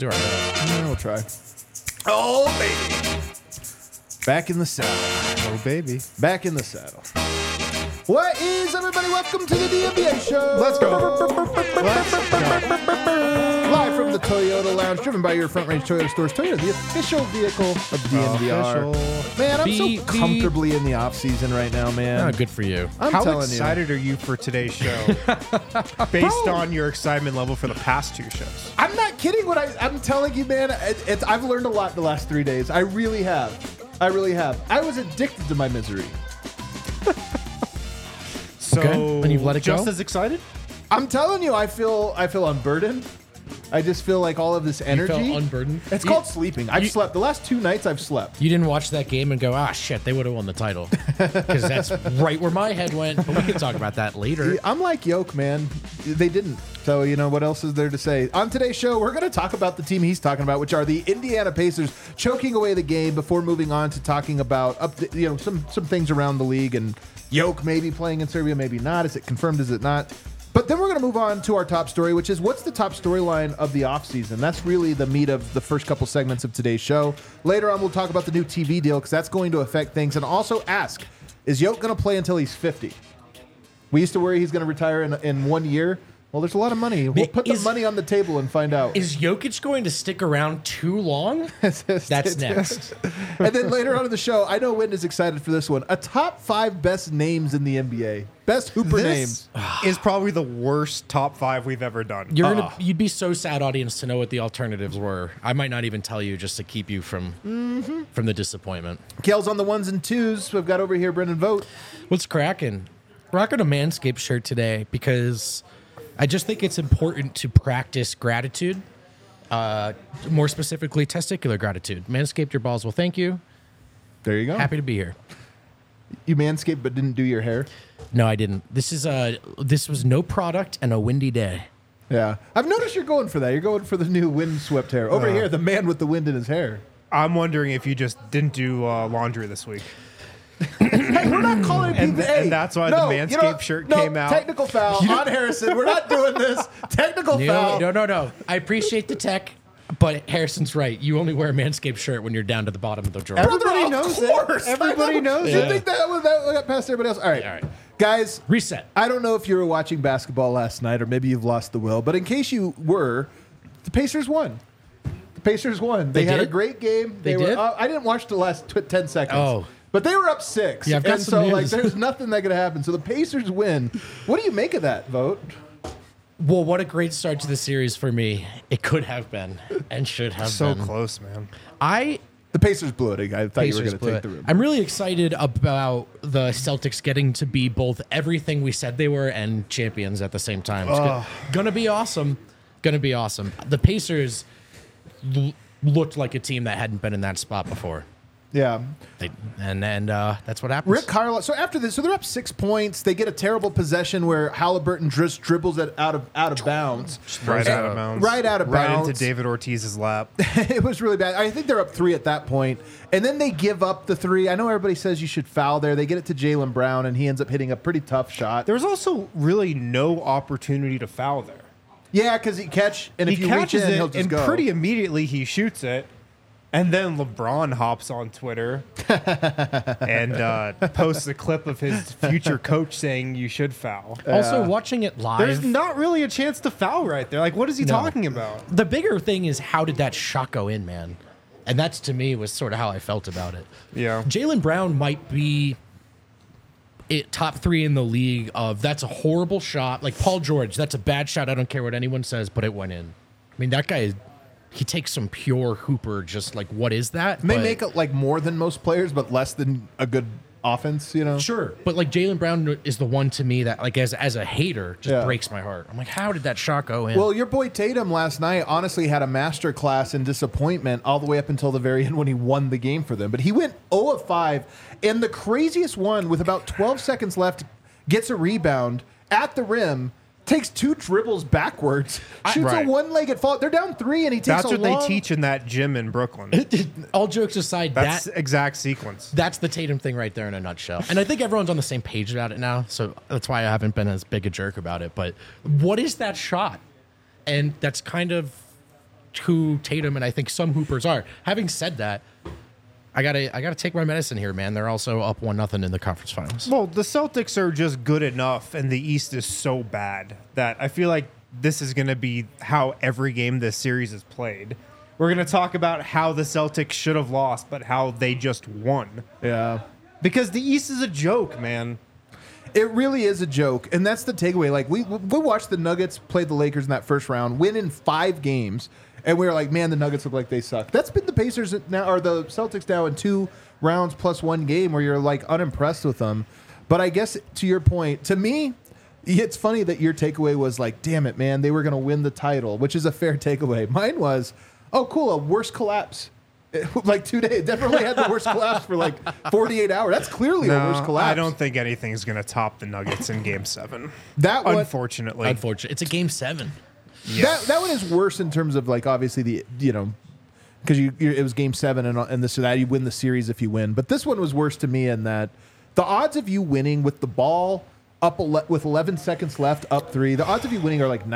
do our best. Yeah, we'll try. Oh, baby. Back in the saddle. Oh, baby. Back in the saddle. What is, everybody? Welcome to the DNVR show. Let's go. Live from the Toyota Lounge, driven by your Front Range Toyota stores. Toyota, the official vehicle of DNVR. Man, I'm so comfortably in the off season right now, man. Oh, good for you. I'm How telling excited are you for today's show based on your excitement level for the past two shows? I'm not kidding. I'm telling you, man. I've learned a lot the last 3 days. I really have. I was addicted to my misery. So, Okay, and you've let it just go? as excited? I'm telling you, I feel unburdened. I just feel like all of this energy. You felt unburdened? It's called sleeping. I've slept. The last 2 nights I've slept. You didn't watch that game and go, shit, they would have won the title. Because that's right where my head went. But we can talk about that later. I'm like Yoke, man. They didn't. So, you know, what else is there to say? On today's show, we're going to talk about the team he's talking about, which are the Indiana Pacers choking away the game before moving on to talking about some things around the league and Yoke maybe playing in Serbia, maybe not. Is it confirmed? Is it not? But then we're going to move on to our top story, which is what's the top storyline of the offseason? That's really the meat of the first couple segments of today's show. Later on, we'll talk about the new TV deal because that's going to affect things. And also ask, is Yoke going to play until he's 50? We used to worry he's going to retire in 1 year. Well, there's a lot of money. We'll put the money on the table and find out. Is Jokic going to stick around too long? That's next. And then later on in the show, I know Wynn is excited for this one. A top 5 best names in the NBA. Best Hooper names. Is probably the worst top 5 we've ever done. You'd be so sad, audience, to know what the alternatives were. I might not even tell you just to keep you from the disappointment. Kale's on the 1s and 2s. We've got over here Brendan Vogt. What's cracking? Rocking a Manscaped shirt today because I just think it's important to practice gratitude, more specifically testicular gratitude. Manscaped your balls will thank you. There you go. Happy to be here. You manscaped but didn't do your hair? No, I didn't. This was no product and a windy day. Yeah. I've noticed you're going for that. You're going for the new wind-swept hair. Over here, the man with the wind in his hair. I'm wondering if you just didn't do laundry this week. Hey, we're not calling it And PPA. and that's why the Manscaped shirt came out. Technical foul on Harrison. We're not doing this. Technical foul. No. I appreciate the tech, but Harrison's right. You only wear a Manscaped shirt when you're down to the bottom of the drawer. Everybody Of knows course. it. Everybody knows You it. think that got past everybody else? All right. Guys, Reset. I don't know if you were watching basketball last night or maybe you've lost the will, but in case you were, the Pacers won. They had a did? great game. They did? I didn't watch the last 10 seconds. Oh. But they were up 6. Yeah, I've got and some so news. there's nothing that could happen. So the Pacers win. What do you make of that, Vote? Well, what a great start to the series for me. It could have been and should have So been. close, man. The Pacers blew it. I thought you were Pacers going to blew take it. the room. I'm really excited about the Celtics getting to be both everything we said they were and champions at the same time. It's gonna be awesome. The Pacers looked like a team that hadn't been in that spot before. Yeah. And that's what happens. Rick Carlisle. So after this, so they're up 6 points. They get a terrible possession where Halliburton just dribbles it out of bounds. Right out of bounds. Right out of bounds. Right into David Ortiz's lap. It was really bad. I think they're up 3 at that point, and then they give up the 3. I know everybody says you should foul there. They get it to Jaylen Brown, and he ends up hitting a pretty tough shot. There was also really no opportunity to foul there. Yeah, because he catch, and if He you reach catches in, he'll it, just and go. pretty immediately he shoots it. And then LeBron hops on Twitter and posts a clip of his future coach saying you should foul. Also, watching it live, There's not really a chance to foul right there. Like, what is he talking about? the bigger thing is how did that shot go in, man? And that's, to me, was sort of how I felt about it. Yeah. Jaylen Brown might be top 3 in the league of that's a horrible shot. Like Paul George, that's a bad shot. I don't care what anyone says, but it went in. I mean, that guy, he takes some pure hooper, just like, what is that? May But- make it like more than most players, but less than a good offense, you know? Sure, but like Jaylen Brown is the one to me that, like, as a hater, just breaks my heart. I'm like, how did that shot go in? Well, your boy Tatum last night honestly had a master class in disappointment all the way up until the very end when he won the game for them. But he went 0 of 5, and the craziest one with about 12 seconds left gets a rebound at the rim, takes 2 dribbles backwards, shoots a one-legged fall. They're down 3, and he takes That's a what long... they teach in that gym in Brooklyn. All jokes aside, That's exact sequence. that's the Tatum thing right there in a nutshell. And I think everyone's on the same page about it now, so that's why I haven't been as big a jerk about it. But what is that shot? And that's kind of who Tatum and I think some Hoopers are. Having said that, I gotta take my medicine here, man. They're also up 1-0 in the conference finals. Well, the Celtics are just good enough, and the East is so bad that I feel like this is going to be how every game this series is played. We're going to talk about how the Celtics should have lost, but how they just won. Yeah. Because the East is a joke, man. It really is a joke, and that's the takeaway. Like we watched the Nuggets play the Lakers in that first round, win in 5 games, and we were like, man, the Nuggets look like they suck. That's been the Pacers now, or the Celtics now in 2 rounds plus 1 game where you're like unimpressed with them. But I guess to your point, to me, it's funny that your takeaway was like, damn it, man, they were going to win the title, which is a fair takeaway. Mine was, oh, cool, a worst collapse. Like 2 days. Definitely had the worst collapse for like 48 hours. That's clearly a worst collapse. I don't think anything's going to top the Nuggets in Game 7. That one, unfortunately. It's a Game 7. Yeah. That one is worse in terms of like obviously the because it was Game 7 and this or that, you win the series if you win. But this one was worse to me in that the odds of you winning with the ball up with 11 seconds left, up 3, the odds of you winning are like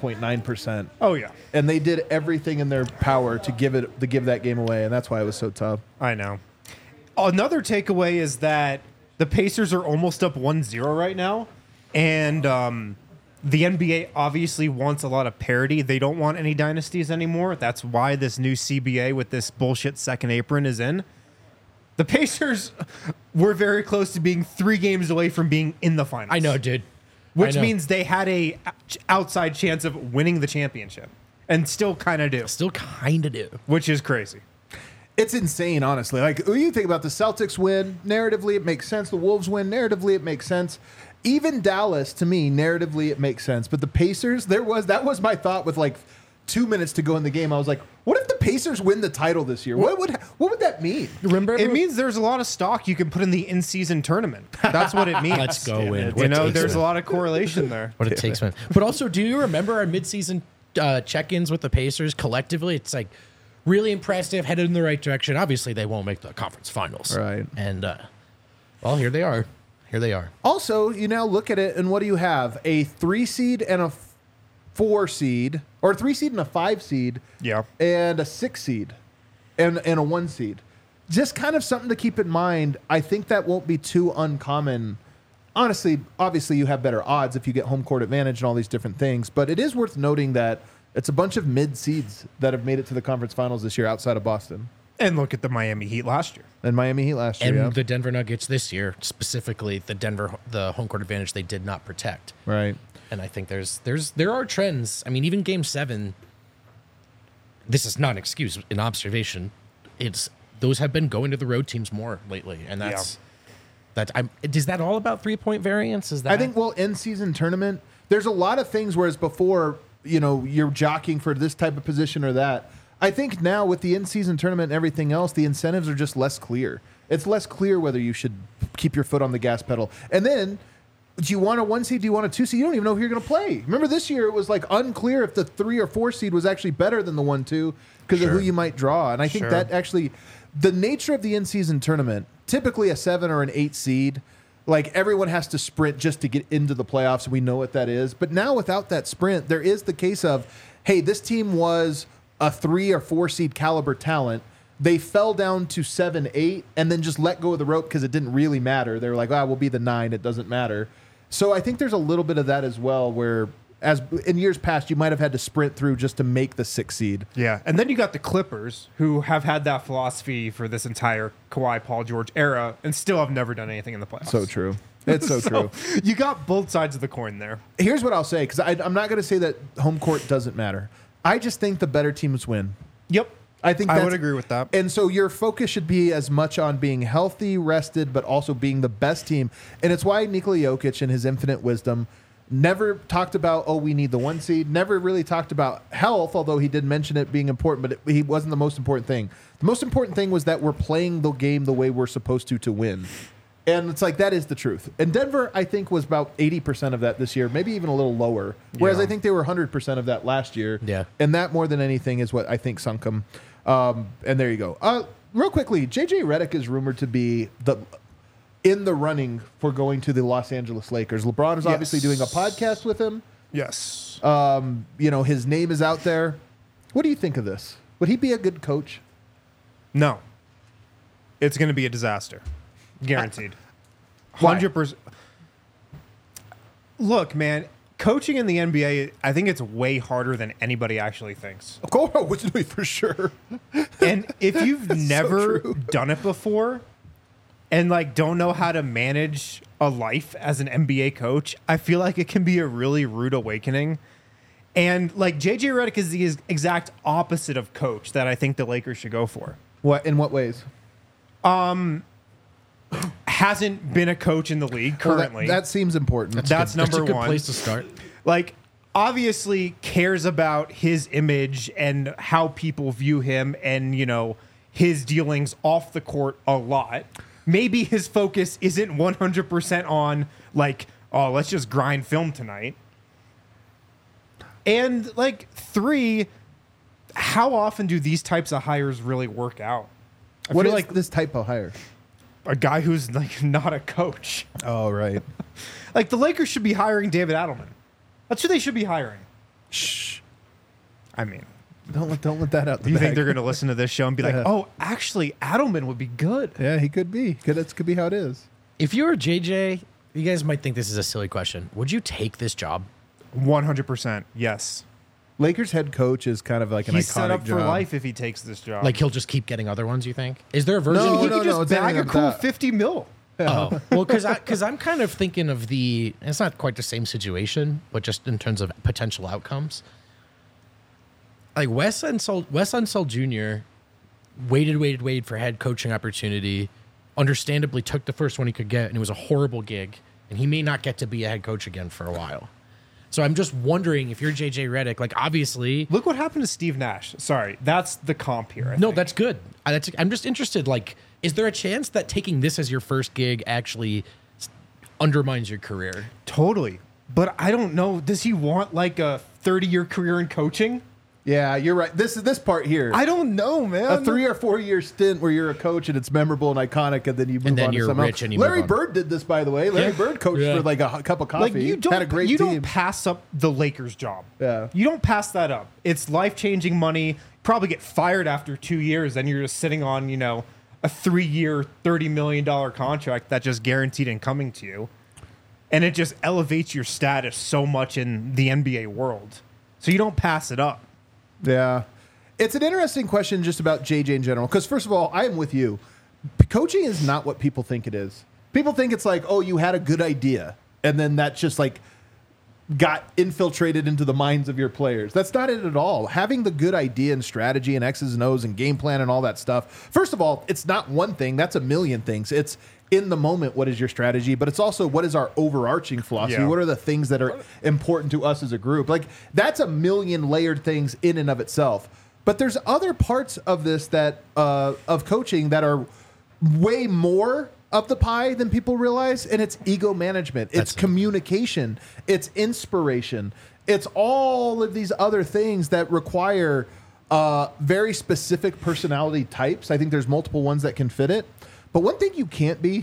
99.9%. Oh yeah, and they did everything in their power to give that game away, and that's why it was so tough. I know. Another takeaway is that the Pacers are almost up 1-0 right now, and the NBA obviously wants a lot of parity. They don't want any dynasties anymore. That's why this new CBA with this bullshit second apron is in. The Pacers were very close to being 3 games away from being in the finals. I know, dude. Which means they had a outside chance of winning the championship, and still kind of do. Still kind of do. Which is crazy. It's insane, honestly. Like, when you think about the Celtics win, narratively it makes sense. The Wolves win, narratively it makes sense. Even Dallas, to me, narratively it makes sense. But the Pacers, that was my thought with like 2 minutes to go in the game. I was like, what if the Pacers win the title this year? What would that mean? Remember, it means there's a lot of stock you can put in the in-season tournament. That's what it means. Let's go in. You know, there's a lot of correlation there. What it takes, man. But also, do you remember our midseason check-ins with the Pacers collectively? It's like really impressive, headed in the right direction. Obviously, they won't make the conference finals. Right. And, well, here they are. Here they are. Also, you now look at it, and what do you have? A 3 seed and a 4 seed, or a 3 seed and a 5 seed, Yeah. and a 6 seed, and a 1 seed. Just kind of something to keep in mind. I think that won't be too uncommon. Honestly, obviously, you have better odds if you get home court advantage and all these different things, but it is worth noting that it's a bunch of mid seeds that have made it to the conference finals this year outside of Boston. And look at the Miami Heat last year. And Miami Heat last year, And the Denver Nuggets this year, specifically the home court advantage they did not protect. right. And I think there are trends. I mean, even Game 7, this is not an excuse, an observation. Those have been going to the road teams more lately, and is that all about 3-point variance? Is that I think in season tournament, there's a lot of things. Whereas before, you're jockeying for this type of position or that. I think now with the in-season tournament and everything else, the incentives are just less clear. It's less clear whether you should keep your foot on the gas pedal. And then, do you want a 1 seed? Do you want a 2 seed? You don't even know who you're going to play. Remember this year, it was like unclear if the 3 or 4 seed was actually better than the 1-2 because of who you might draw. And I think that actually, the nature of the in-season tournament, typically a 7 or an 8 seed, like everyone has to sprint just to get into the playoffs. And we know what that is. But now without that sprint, there is the case of, hey, this team was a 3 or 4 seed caliber talent. They fell down to 7, 8, and then just let go of the rope because it didn't really matter. They were like, we'll be the 9. It doesn't matter. So I think there's a little bit of that as well, where as in years past, you might have had to sprint through just to make the 6 seed. Yeah. And then you got the Clippers, who have had that philosophy for this entire Kawhi, Paul George era and still have never done anything in the playoffs. So true. It's so true. You got both sides of the coin there. Here's what I'll say, because I'm not going to say that home court doesn't matter. I just think the better teams win. Yep. I think I would agree with that. And so your focus should be as much on being healthy, rested, but also being the best team. And it's why Nikola Jokic, in his infinite wisdom, never talked about, we need the 1 seed. Never really talked about health, although he did mention it being important, but he wasn't the most important thing. The most important thing was that we're playing the game the way we're supposed to win. And it's like, that is the truth. And Denver, I think, was about 80% of that this year, maybe even a little lower. Whereas I think they were 100% of that last year. Yeah. And that, more than anything, is what I think sunk them. And there you go. Real quickly, JJ Redick is rumored to be in the running for going to the Los Angeles Lakers. LeBron is obviously doing a podcast with him. Yes. His name is out there. What do you think of this? Would he be a good coach? No. It's going to be a disaster. Guaranteed. Why? 100%. Look, man, coaching in the NBA, I think it's way harder than anybody actually thinks. Of course, for sure. And if you've never true. done it before and like don't know how to manage a life as an NBA coach, I feel like it can be a really rude awakening. And like JJ Redick is the exact opposite of coach that I think the Lakers should go for. What in what ways? Hasn't been a coach in the league currently. Well, that seems important. That's That's number a good one. place to start. Like, obviously cares about his image and how people view him and, you know, his dealings off the court a lot. Maybe his focus isn't 100% on, like, oh, let's just grind film tonight. And, like, 3, how often do these types of hires really work out? I What feel is like this type of hire? a guy who's, like, not a coach. Oh, right. Like, the Lakers should be hiring David Adelman. That's who they should be hiring. Shh. I mean, Don't let that out. do you think they're going to listen to this show and be like, oh, actually, Adelman would be good? Yeah, he could be. That could be how it is. If you were JJ, you guys might think this is a silly question. Would you take this job? 100%. Yes. Lakers head coach is kind of like an He's iconic set up for job. life if he takes this job. Like he'll just keep getting other ones, you think? Is there a version? No, he of could just it's bag anything a like cool that. 50 mil. Oh, well, because I'm kind of thinking of it's not quite the same situation, but just in terms of potential outcomes. Like Wes Unseld Jr. waited for head coaching opportunity, understandably took the first one he could get, and it was a horrible gig, and he may not get to be a head coach again for a while. So I'm just wondering if you're JJ Redick, like obviously. Look what happened to Steve Nash. Sorry, that's the comp here. I No, think. that's good. I'm just interested. Like, is there a chance that taking this as your first gig actually undermines your career? Totally. But I don't know. Does he want like a 30-year career in coaching? Yeah, you're right. This part here. I don't know, man. a 3 or 4 year stint where you're a coach and it's memorable and iconic, and then you move And then on to you're something rich else. and you Larry move on. Bird did this, by the way. Larry Bird coached Yeah. for like a cup of coffee. Like you don't, had a great you team. don't pass up the Lakers job. Yeah. You don't pass that up. It's life-changing money. Probably get fired after 2 years, and you're just sitting on, you know, a 3-year, $30 million contract that's just guaranteed and coming to you. And it just elevates your status so much in the NBA world. So you don't pass it up. Yeah. It's an interesting question just about JJ in general. Because, first of all, I am with you. Coaching is not what people think it is. People think it's like, oh, you had a good idea. And then that just like got infiltrated into the minds of your players. That's not it at all. Having the good idea and strategy and X's and O's and game plan and all that stuff. First of all, it's not one thing. That's a million things. It's in the moment, what is your strategy? But it's also what is our overarching philosophy? Yeah. What are the things that are important to us as a group? Like that's a million layered things in and of itself. But there's other parts of this that of coaching that are way more of the pie than people realize, and it's ego management, it's communication, it's inspiration, it's all of these other things that require very specific personality types. I think there's multiple ones that can fit it. But one thing you can't be,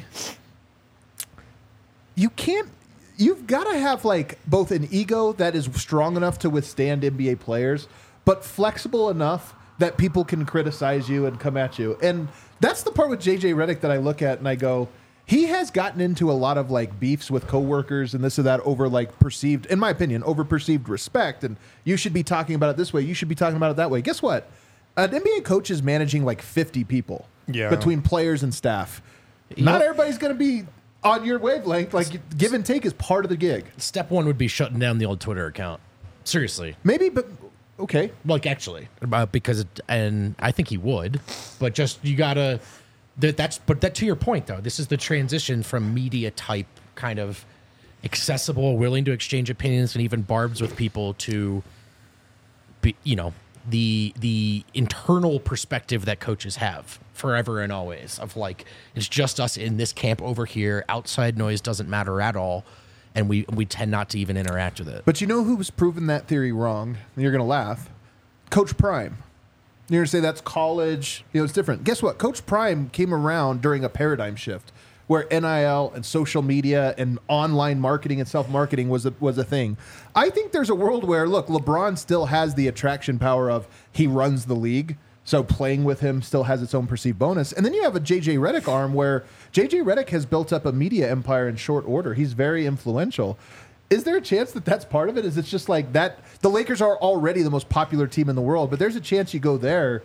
you've got to have like both an ego that is strong enough to withstand NBA players, but flexible enough that people can criticize you and come at you. And that's the part with JJ Redick that I look at and I go, he has gotten into a lot of like beefs with coworkers and this or that over like perceived, in my opinion, over perceived respect. And you should be talking about it this way. You should be talking about it that way. Guess what? An NBA coach is managing like 50 people between players and staff. Not everybody's going to be on your wavelength. Like give and take is part of the gig. Step one would be shutting down the old Twitter account. Seriously. Maybe, but okay. Like actually, and I think he would, but just you gotta. But to your point though, this is the transition from media type kind of accessible, willing to exchange opinions and even barbs with people to, be, you know, the internal perspective that coaches have forever and always of like it's just us in this camp over here. Outside noise doesn't matter at all. And we tend not to even interact with it. But you know who's proven that theory wrong? And you're going to laugh. Coach Prime. You're going to say that's college. You know, it's different. Guess what? Coach Prime came around during a paradigm shift where NIL and social media and online marketing and self-marketing was a thing. I think there's a world where, look, LeBron still has the attraction power of he runs the league, so playing with him still has its own perceived bonus. And then you have a JJ Redick arm where JJ Redick has built up a media empire in short order. He's very influential. Is there a chance that that's part of it? Is it just like that? The Lakers are already the most popular team in the world, but there's a chance you go there.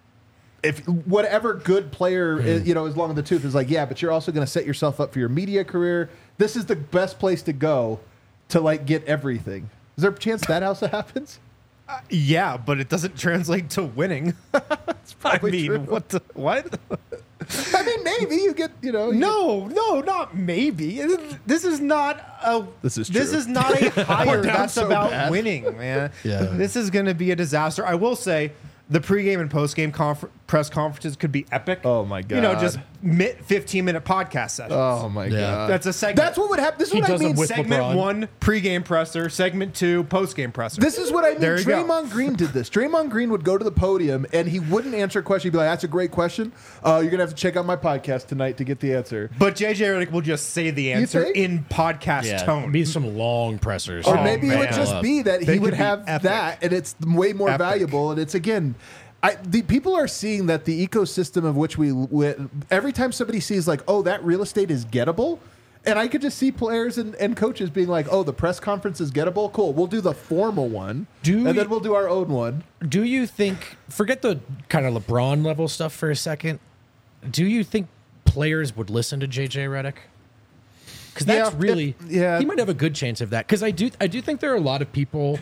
If whatever good player is, is long in the tooth is like, yeah, but you're also going to set yourself up for your media career. This is the best place to go to like get everything. Is there a chance that also happens? Yeah, but it doesn't translate to winning. I mean, true. what? I mean, maybe you get, No, not maybe. This is not a. This is not a hire down that's so about bad. winning, man. Yeah. This is going to be a disaster. I will say, the pregame and postgame press conferences could be epic. Oh my God. Just 15-minute podcast sessions. Oh my Yeah. God. That's a segment. That's what would happen. This is He what I does them mean. with segment LeBron. 1, pregame presser. Segment 2, postgame presser. This is what I mean. There you go. Draymond Green did this. Draymond Green would go to the podium and he wouldn't answer a question. He'd be like, "That's a great question. You're gonna have to check out my podcast tonight to get the answer." But JJ Redick will just say the answer think? in podcast tone. Be some long pressers. Or Oh, maybe it would man. just be that They he would could be have epic. that, and it's way more Epic. valuable. And it's again, the people are seeing that the ecosystem of which every time somebody sees like, oh, that real estate is gettable. And I could just see players and coaches being like, oh, the press conference is gettable. Cool. We'll do the formal one. Then we'll do our own one. Do you think, forget the kind of LeBron level stuff for a second, do you think players would listen to JJ Redick? Because that's Yeah, really, yeah. he might have a good chance of that. Because I do think there are a lot of people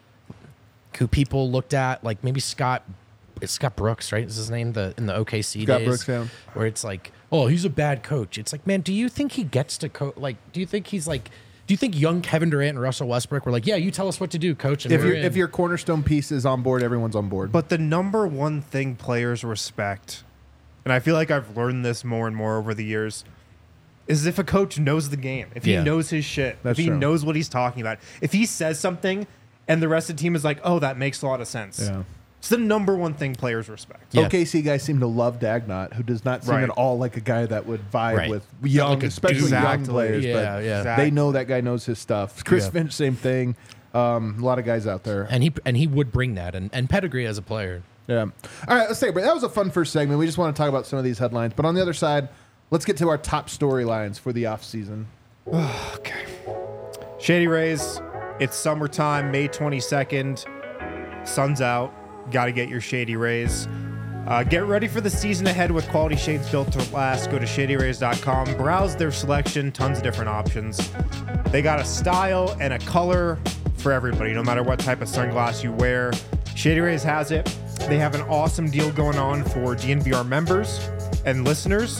who people looked at, like maybe it's Scott Brooks, right? Is his name in the OKC Scott days? Brooks, yeah. Where it's like, oh, he's a bad coach. It's like, man, do you think he gets to coach? Like, do you think young Kevin Durant and Russell Westbrook were like, yeah, you tell us what to do, coach? And If your cornerstone piece is on board, everyone's on board. But the number one thing players respect, and I feel like I've learned this more and more over the years, is if a coach knows the game, if he Yeah. knows his shit, That's if he true. knows what he's talking about, if he says something and the rest of the team is like, oh, that makes a lot of sense. Yeah. It's the number one thing players respect. Yeah. OKC guys seem to love Dagnott, who does not seem Right. at all like a guy that would vibe Right. with young, like a especially dude. young Exactly. players. Yeah, but yeah. Exactly. they know that guy knows his stuff. Chris Yeah. Finch, same thing. A lot of guys out there. and he would bring that and pedigree as a player. Yeah. All right, let's take a break. That was a fun first segment. We just want to talk about some of these headlines. But on the other side, let's get to our top storylines for the offseason. Okay. Shady Rays, it's summertime, May 22nd. Sun's out. Got to get your Shady Rays. Get ready for the season ahead with quality shades built to last. Go to shadyrays.com. Browse their selection. Tons of different options. They got a style and a color for everybody, no matter what type of sunglass you wear. Shady Rays has it. They have an awesome deal going on for DNVR members and listeners.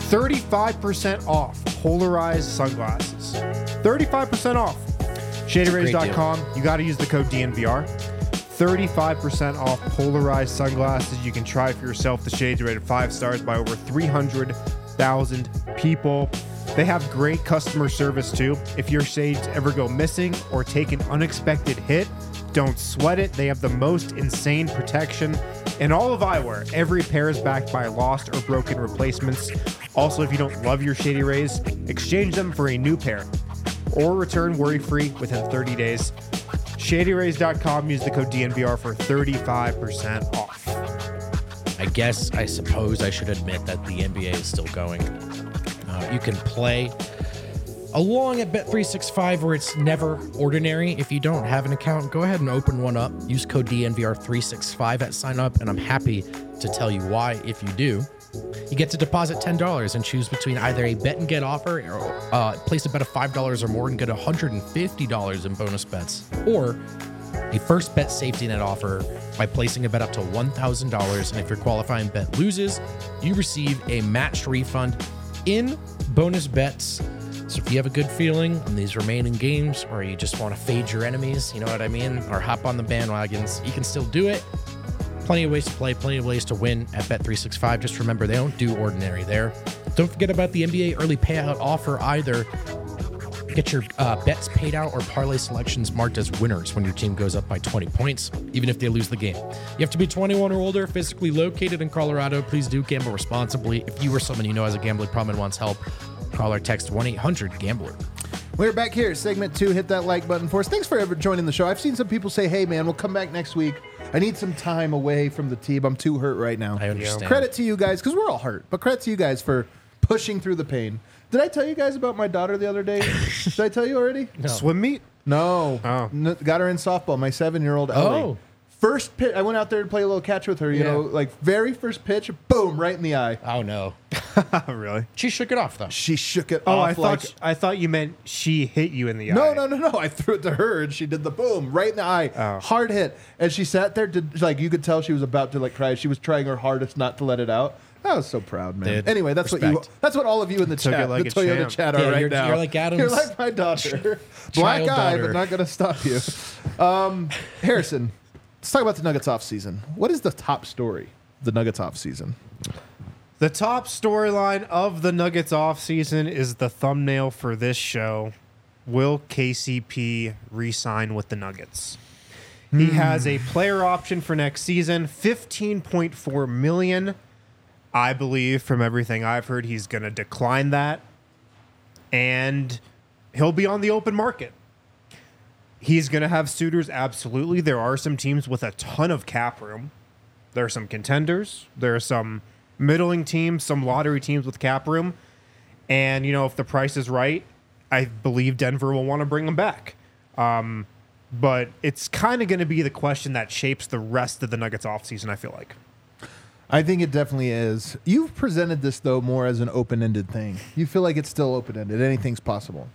35% off polarized sunglasses. 35% off. ShadyRays.com. You got to use the code DNVR. 35% off polarized sunglasses. You can try for yourself. The shades are rated 5 stars by over 300,000 people. They have great customer service too. If your shades ever go missing or take an unexpected hit, don't sweat it. They have the most insane protection in all of eyewear. Every pair is backed by lost or broken replacements. Also, if you don't love your Shady Rays, exchange them for a new pair or return worry-free within 30 days. ShadyRays.com. Use the code DNVR for 35% off. I suppose I should admit that the NBA is still going. You can play along at Bet365 where it's never ordinary. If you don't have an account, go ahead and open one up. Use code DNVR365 at sign up, and I'm happy to tell you why if you do. You get to deposit $10 and choose between either a bet and get offer or place a bet of $5 or more and get $150 in bonus bets, or a first bet safety net offer by placing a bet up to $1,000. And if your qualifying bet loses, you receive a matched refund in bonus bets. So if you have a good feeling on these remaining games, or you just want to fade your enemies, you know what I mean, or hop on the bandwagons, you can still do it. Plenty of ways to play, plenty of ways to win at Bet365. Just remember, they don't do ordinary there. Don't forget about the NBA early payout offer either. Get your bets paid out or parlay selections marked as winners when your team goes up by 20 points, even if they lose the game. You have to be 21 or older, physically located in Colorado. Please do gamble responsibly. If you or someone you know has a gambling problem and wants help, Call or text 1-800-GAMBLER. We're back here, segment 2. Hit that like button for us. Thanks for ever joining the show. I've seen some people say, hey, man, we'll come back next week. I need some time away from the team. I'm too hurt right now. I understand. Credit to you guys, because we're all hurt, but credit to you guys for pushing through the pain. Did I tell you guys about my daughter the other day? Did I tell you already? No. Swim meet? No. Oh. Got her in softball, my 7-year-old Ellie. Oh. First pitch, I went out there to play a little catch with her, you Yeah. know, like very first pitch, boom, right in the eye. Oh, no. Really? She shook it off, though. She shook it Oh, off I thought you meant she hit you in the No, eye. no. I threw it to her and she did the boom right in the eye. Oh. Hard hit. And she sat there, like, you could tell she was about to, like, cry. She was trying her hardest not to let it out. I was so proud, man. Dude, anyway, that's respect. that's what all of you in the Took chat, it like the a Toyota champ. chat are Yeah, right you're- now. you're like Adam's You're like my daughter. Black child eye, daughter. but not going to stop you. Harrison, let's talk about the Nuggets off season. What is the top story of the Nuggets off season? The top storyline of the Nuggets offseason is the thumbnail for this show. Will KCP re-sign with the Nuggets? He has a player option for next season, $15.4 million. I believe from everything I've heard, he's going to decline that. And he'll be on the open market. He's going to have suitors, absolutely. There are some teams with a ton of cap room. There are some contenders. There are some middling teams, some lottery teams with cap room. And, you know, if the price is right, I believe Denver will want to bring him back. But it's kind of going to be the question that shapes the rest of the Nuggets offseason, I feel like. I think it definitely is. You've presented this, though, more as an open-ended thing. You feel like it's still open-ended. Anything's possible.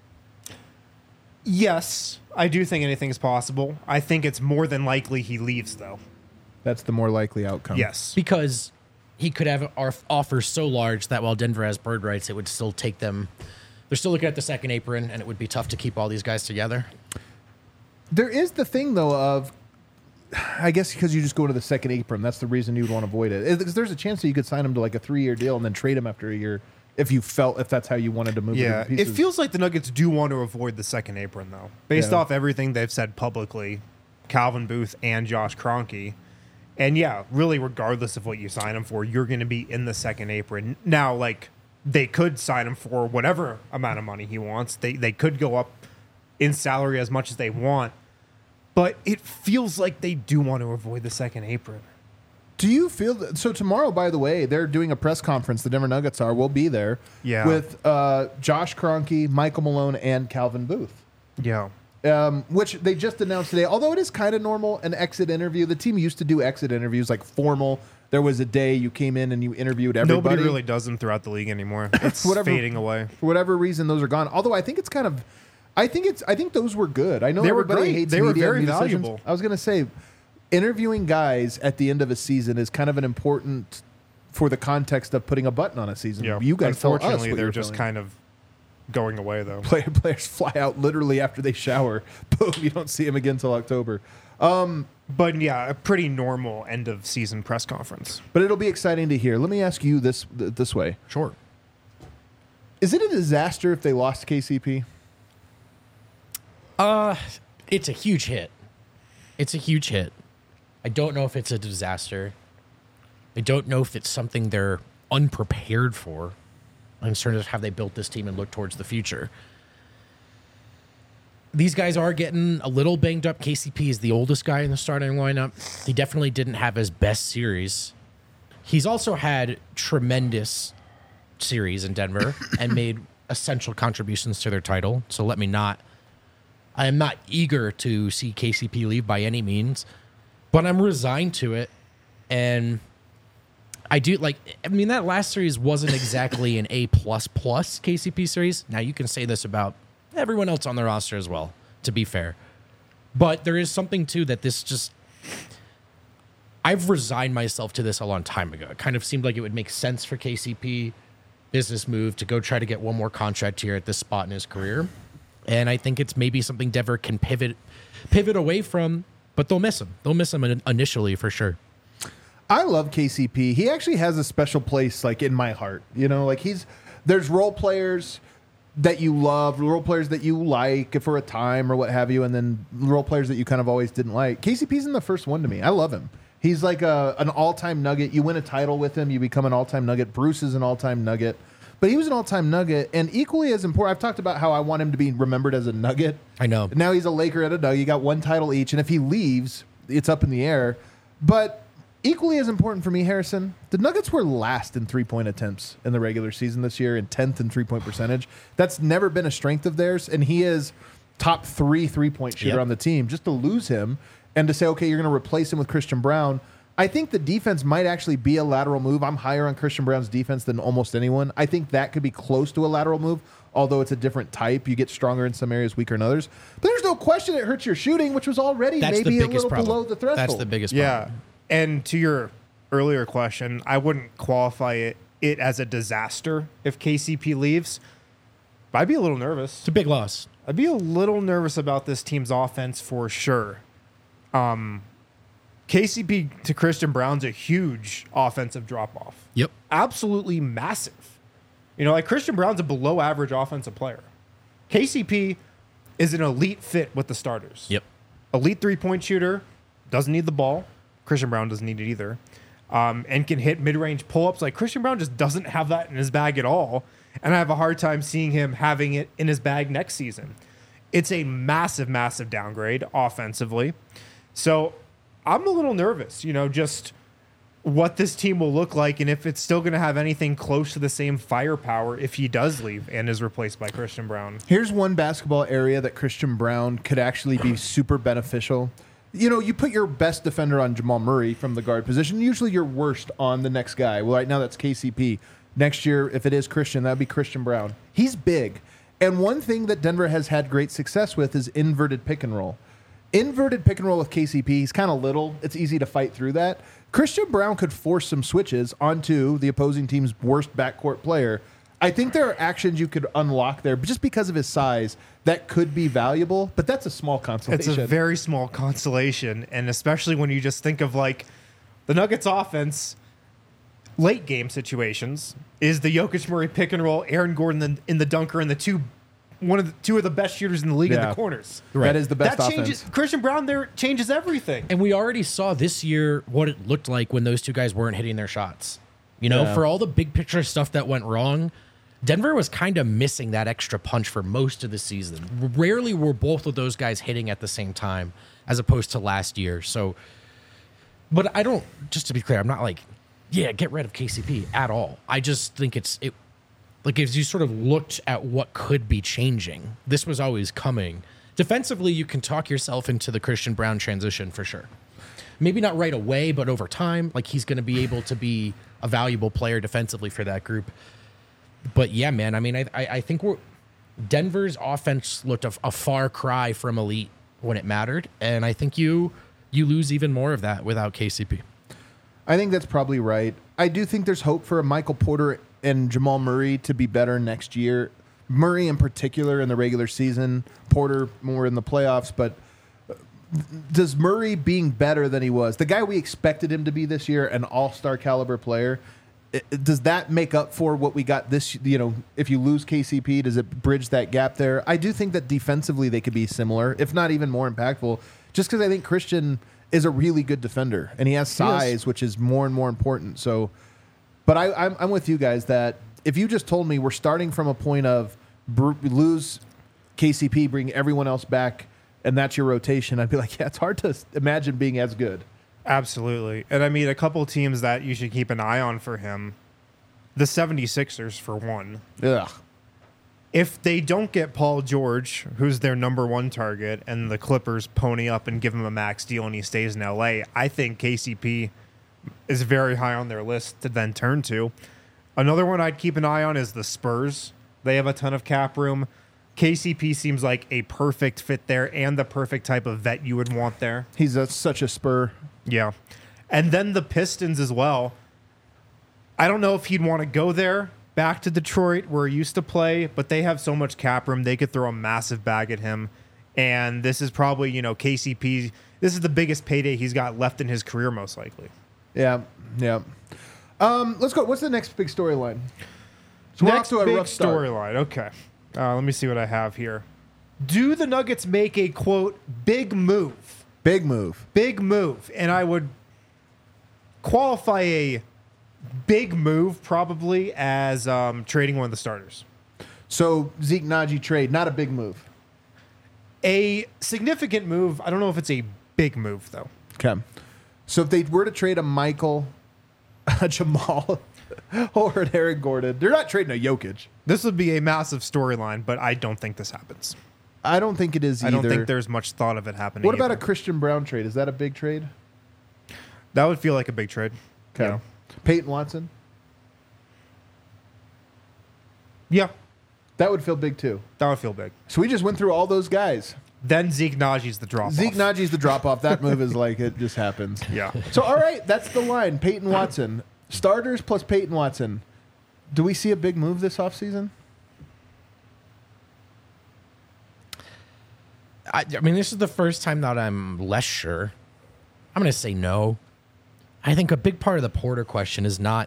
Yes, I do think anything's possible. I think it's more than likely he leaves, though. That's the more likely outcome. Yes. Because he could have offers so large that while Denver has bird rights, it would still take them. They're still looking at the second apron, and it would be tough to keep all these guys together. There is the thing, though, of I guess because you just go to the second apron. That's the reason you would want to avoid it. Because there's a chance that you could sign him to like a 3-year deal and then trade him after a year if that's how you wanted to move. Yeah, the it pieces. feels like the Nuggets do want to avoid the second apron, though. Based Yeah. off everything they've said publicly, Calvin Booth and Josh Kroenke. And yeah, really, regardless of what you sign him for, you're going to be in the second apron. Now, like, they could sign him for whatever amount of money he wants. They could go up in salary as much as they want. But it feels like they do want to avoid the second apron. Do you feel that? So tomorrow, by the way, they're doing a press conference. The Denver Nuggets are. We'll be there. Yeah. With Josh Kroenke, Michael Malone, and Calvin Booth. Yeah. Which they just announced today. Although it is kind of normal, an exit interview. The team used to do exit interviews, like formal. There was a day you came in and you interviewed everybody. Nobody really does them throughout the league anymore. It's fading away. For whatever reason, those are gone. Although I think it's kind of, I think those were good. I know They were everybody great. hates They were media very and decisions. valuable. I was going to say, interviewing guys at the end of a season is kind of an important for the context of putting a button on a season. Yeah. You guys tell us Unfortunately, what they're you're just feeling. kind of going away, though. Players fly out literally after they shower. Boom! You don't see them again till October. But yeah, a pretty normal end of season press conference. But it'll be exciting to hear. Let me ask you this way: Sure. is it a disaster if they lost KCP? It's a huge hit. It's a huge hit. I don't know if it's a disaster. I don't know if it's something they're unprepared for in terms of how they built this team and look towards the future. These guys are getting a little banged up. KCP is the oldest guy in the starting lineup. He definitely didn't have his best series. He's also had tremendous series in Denver and made essential contributions to their title. So I am not eager to see KCP leave by any means, but I'm resigned to it. And I do that last series wasn't exactly an A++ KCP series. Now you can say this about everyone else on the roster as well, to be fair. But there is something too that I've resigned myself to this a long time ago. It kind of seemed like it would make sense for KCP, business move, to go try to get one more contract here at this spot in his career. And I think it's maybe something Denver can pivot away from, but they'll miss him. They'll miss him initially for sure. I love KCP. He actually has a special place, like, in my heart. You know, like, there's role players that you love, role players that you like for a time or what have you, and then role players that you kind of always didn't like. KCP's in the first one to me. I love him. He's like an all-time Nugget. You win a title with him, you become an all-time Nugget. Bruce is an all-time Nugget. but he was an all-time Nugget, and equally as important, I've talked about how I want him to be remembered as a Nugget. I know. Now he's a Laker and a Nugget. You got one title each, and if he leaves, it's up in the air. But equally as important for me, Harrison, the Nuggets were last in three-point attempts in the regular season this year and 10th in three-point percentage. That's never been a strength of theirs, and he is top 3 three-point shooter on the team. Just to lose him and to say, okay, you're going to replace him with Christian Braun, I think the defense might actually be a lateral move. I'm higher on Christian Braun's defense than almost anyone. I think that could be close to a lateral move, although it's a different type. You get stronger in some areas, weaker in others. But there's no question it hurts your shooting, which was already maybe a little below the threshold. That's the biggest Yeah. problem. And to your earlier question, I wouldn't qualify it as a disaster if KCP leaves. But I'd be a little nervous. It's a big loss. I'd be a little nervous about this team's offense for sure. KCP to Christian Braun's a huge offensive drop-off. Yep. Absolutely massive. You know, like Christian Braun's a below-average offensive player. KCP is an elite fit with the starters. Yep. Elite three-point shooter, doesn't need the ball. Christian Braun doesn't need it either. And can hit mid-range pull-ups. Like, Christian Braun just doesn't have that in his bag at all. And I have a hard time seeing him having it in his bag next season. It's a massive, massive downgrade offensively. So I'm a little nervous, you know, just what this team will look like and if it's still going to have anything close to the same firepower if he does leave and is replaced by Christian Braun. Here's one basketball area that Christian Braun could actually be super beneficial. You know, you put your best defender on Jamal Murray from the guard position, usually your worst on the next guy. Well, right now that's KCP. Next year, if it is Christian, that would be Christian Braun. He's big. And one thing that Denver has had great success with is inverted pick and roll. Inverted pick and roll with KCP, he's kind of little. It's easy to fight through that. Christian Braun could force some switches onto the opposing team's worst backcourt player. I think there are actions you could unlock there, but just because of his size, that could be valuable, but that's a small consolation. It's a very small consolation, and especially when you just think of, like, the Nuggets offense, late game situations, is the Jokic Murray pick and roll, Aaron Gordon in the dunker, and two of the best shooters in the league in the corners. Right. That is the best that offense. Christian Braun there changes everything. And we already saw this year what it looked like when those two guys weren't hitting their shots. You know, for all the big picture stuff that went wrong, Denver was kind of missing that extra punch for most of the season. Rarely were both of those guys hitting at the same time as opposed to last year. So, but I don't, just to be clear, I'm not like, yeah, get rid of KCP at all. I just think it like as you sort of looked at what could be changing, this was always coming. Defensively, you can talk yourself into the Christian Braun transition for sure. Maybe not right away, but over time, like he's going to be able to be a valuable player defensively for that group. But yeah, man, I mean, I think Denver's offense looked a far cry from elite when it mattered, and I think you lose even more of that without KCP. I think that's probably right. I do think there's hope for Michael Porter and Jamal Murray to be better next year. Murray in particular in the regular season, Porter more in the playoffs, but does Murray being better than he was, the guy we expected him to be this year, an all-star caliber player, does that make up for what we got this, you know, if you lose KCP, does it bridge that gap there? I do think that defensively they could be similar, if not even more impactful, just because I think Christian is a really good defender, and he has size, which is more and more important. So, but I'm with you guys that if you just told me we're starting from a point of lose KCP, bring everyone else back, and that's your rotation, I'd be like, yeah, it's hard to imagine being as good. Absolutely. And I mean, a couple teams that you should keep an eye on for him, the 76ers, for one. Ugh. If they don't get Paul George, who's their number one target, and the Clippers pony up and give him a max deal and he stays in LA, I think KCP is very high on their list to then turn to. Another one I'd keep an eye on is the Spurs. They have a ton of cap room. KCP seems like a perfect fit there and the perfect type of vet you would want there. He's such a Spur. Yeah. And then the Pistons as well. I don't know if he'd want to go there, back to Detroit where he used to play, but they have so much cap room. They could throw a massive bag at him. And this is probably, you know, KCP. This is the biggest payday he's got left in his career, most likely. Yeah. Yeah. Let's go. What's the next big storyline? So we're off Next to a big rough start. storyline. Okay. Let me see what I have here. Do the Nuggets make a, quote, big move? Big move. Big move. And I would qualify a big move probably as trading one of the starters. So Zeke Najee trade, not a big move. A significant move. I don't know if it's a big move though. Okay. So if they were to trade a Michael, a Jamal, or an Aaron Gordon, they're not trading a Jokic. This would be a massive storyline, but I don't think this happens. I don't think it is either. I don't think there's much thought of it happening. What about either. a Christian Brown trade? Is that a big trade? That would feel like a big trade. Okay. Yeah. Peyton Watson? Yeah, That would feel big too. that would feel big. So we just went through all those guys. Then Zeke Najee's the drop. Zeke Najee's the drop off. That move is like it just happens. Yeah. So all right, that's the line. Peyton Watson. Starters plus Peyton Watson. Do we see a big move this offseason? I mean, this is the first time that I'm less sure. I'm going to say no. I think a big part of the Porter question is not,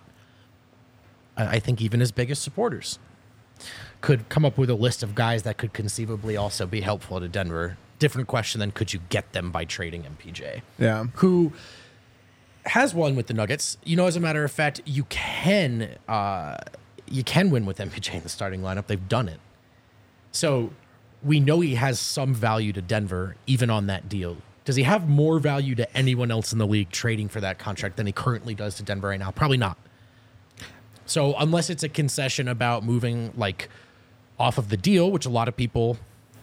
I think even his biggest supporters could come up with a list of guys that could conceivably also be helpful to Denver. Different question than could you get them by trading MPJ? Yeah. Who has won with the Nuggets. You know, as a matter of fact, you can win with MPJ in the starting lineup. They've done it. So we know he has some value to Denver, even on that deal. Does he have more value to anyone else in the league trading for that contract than he currently does to Denver right now? Probably not. So unless it's a concession about moving like off of the deal, which a lot of people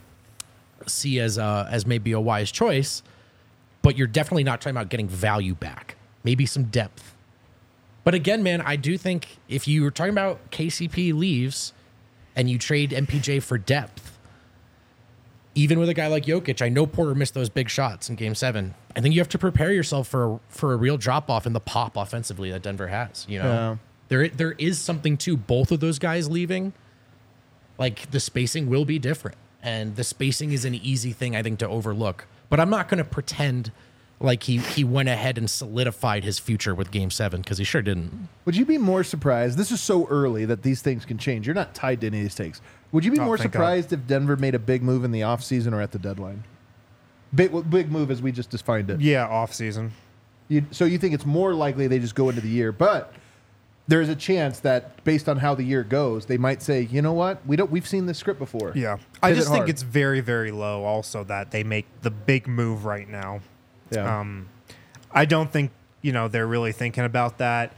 see as maybe a wise choice, but you're definitely not talking about getting value back. Maybe some depth. But again, man, I do think if you were talking about KCP leaves and you trade MPJ for depth, even with a guy like Jokic, I know Porter missed those big shots in Game 7. I think you have to prepare yourself for a real drop-off in the pop offensively that Denver has. You know, there is something to both of those guys leaving. Like, the spacing will be different, and the spacing is an easy thing, I think, to overlook. But I'm not going to pretend like he went ahead and solidified his future with Game 7, because he sure didn't. Would you be more surprised? This is so early that these things can change. You're not tied to any of these takes. Would you be more surprised if Denver made a big move in the offseason or at the deadline? Big move as we just defined it. Yeah, off season. So you think it's more likely they just go into the year, but there's a chance that based on how the year goes, they might say, you know what, we've seen this script before. Yeah, I just think hard. it's very, very low. Also, that they make the big move right now. Yeah. I don't think they're really thinking about that.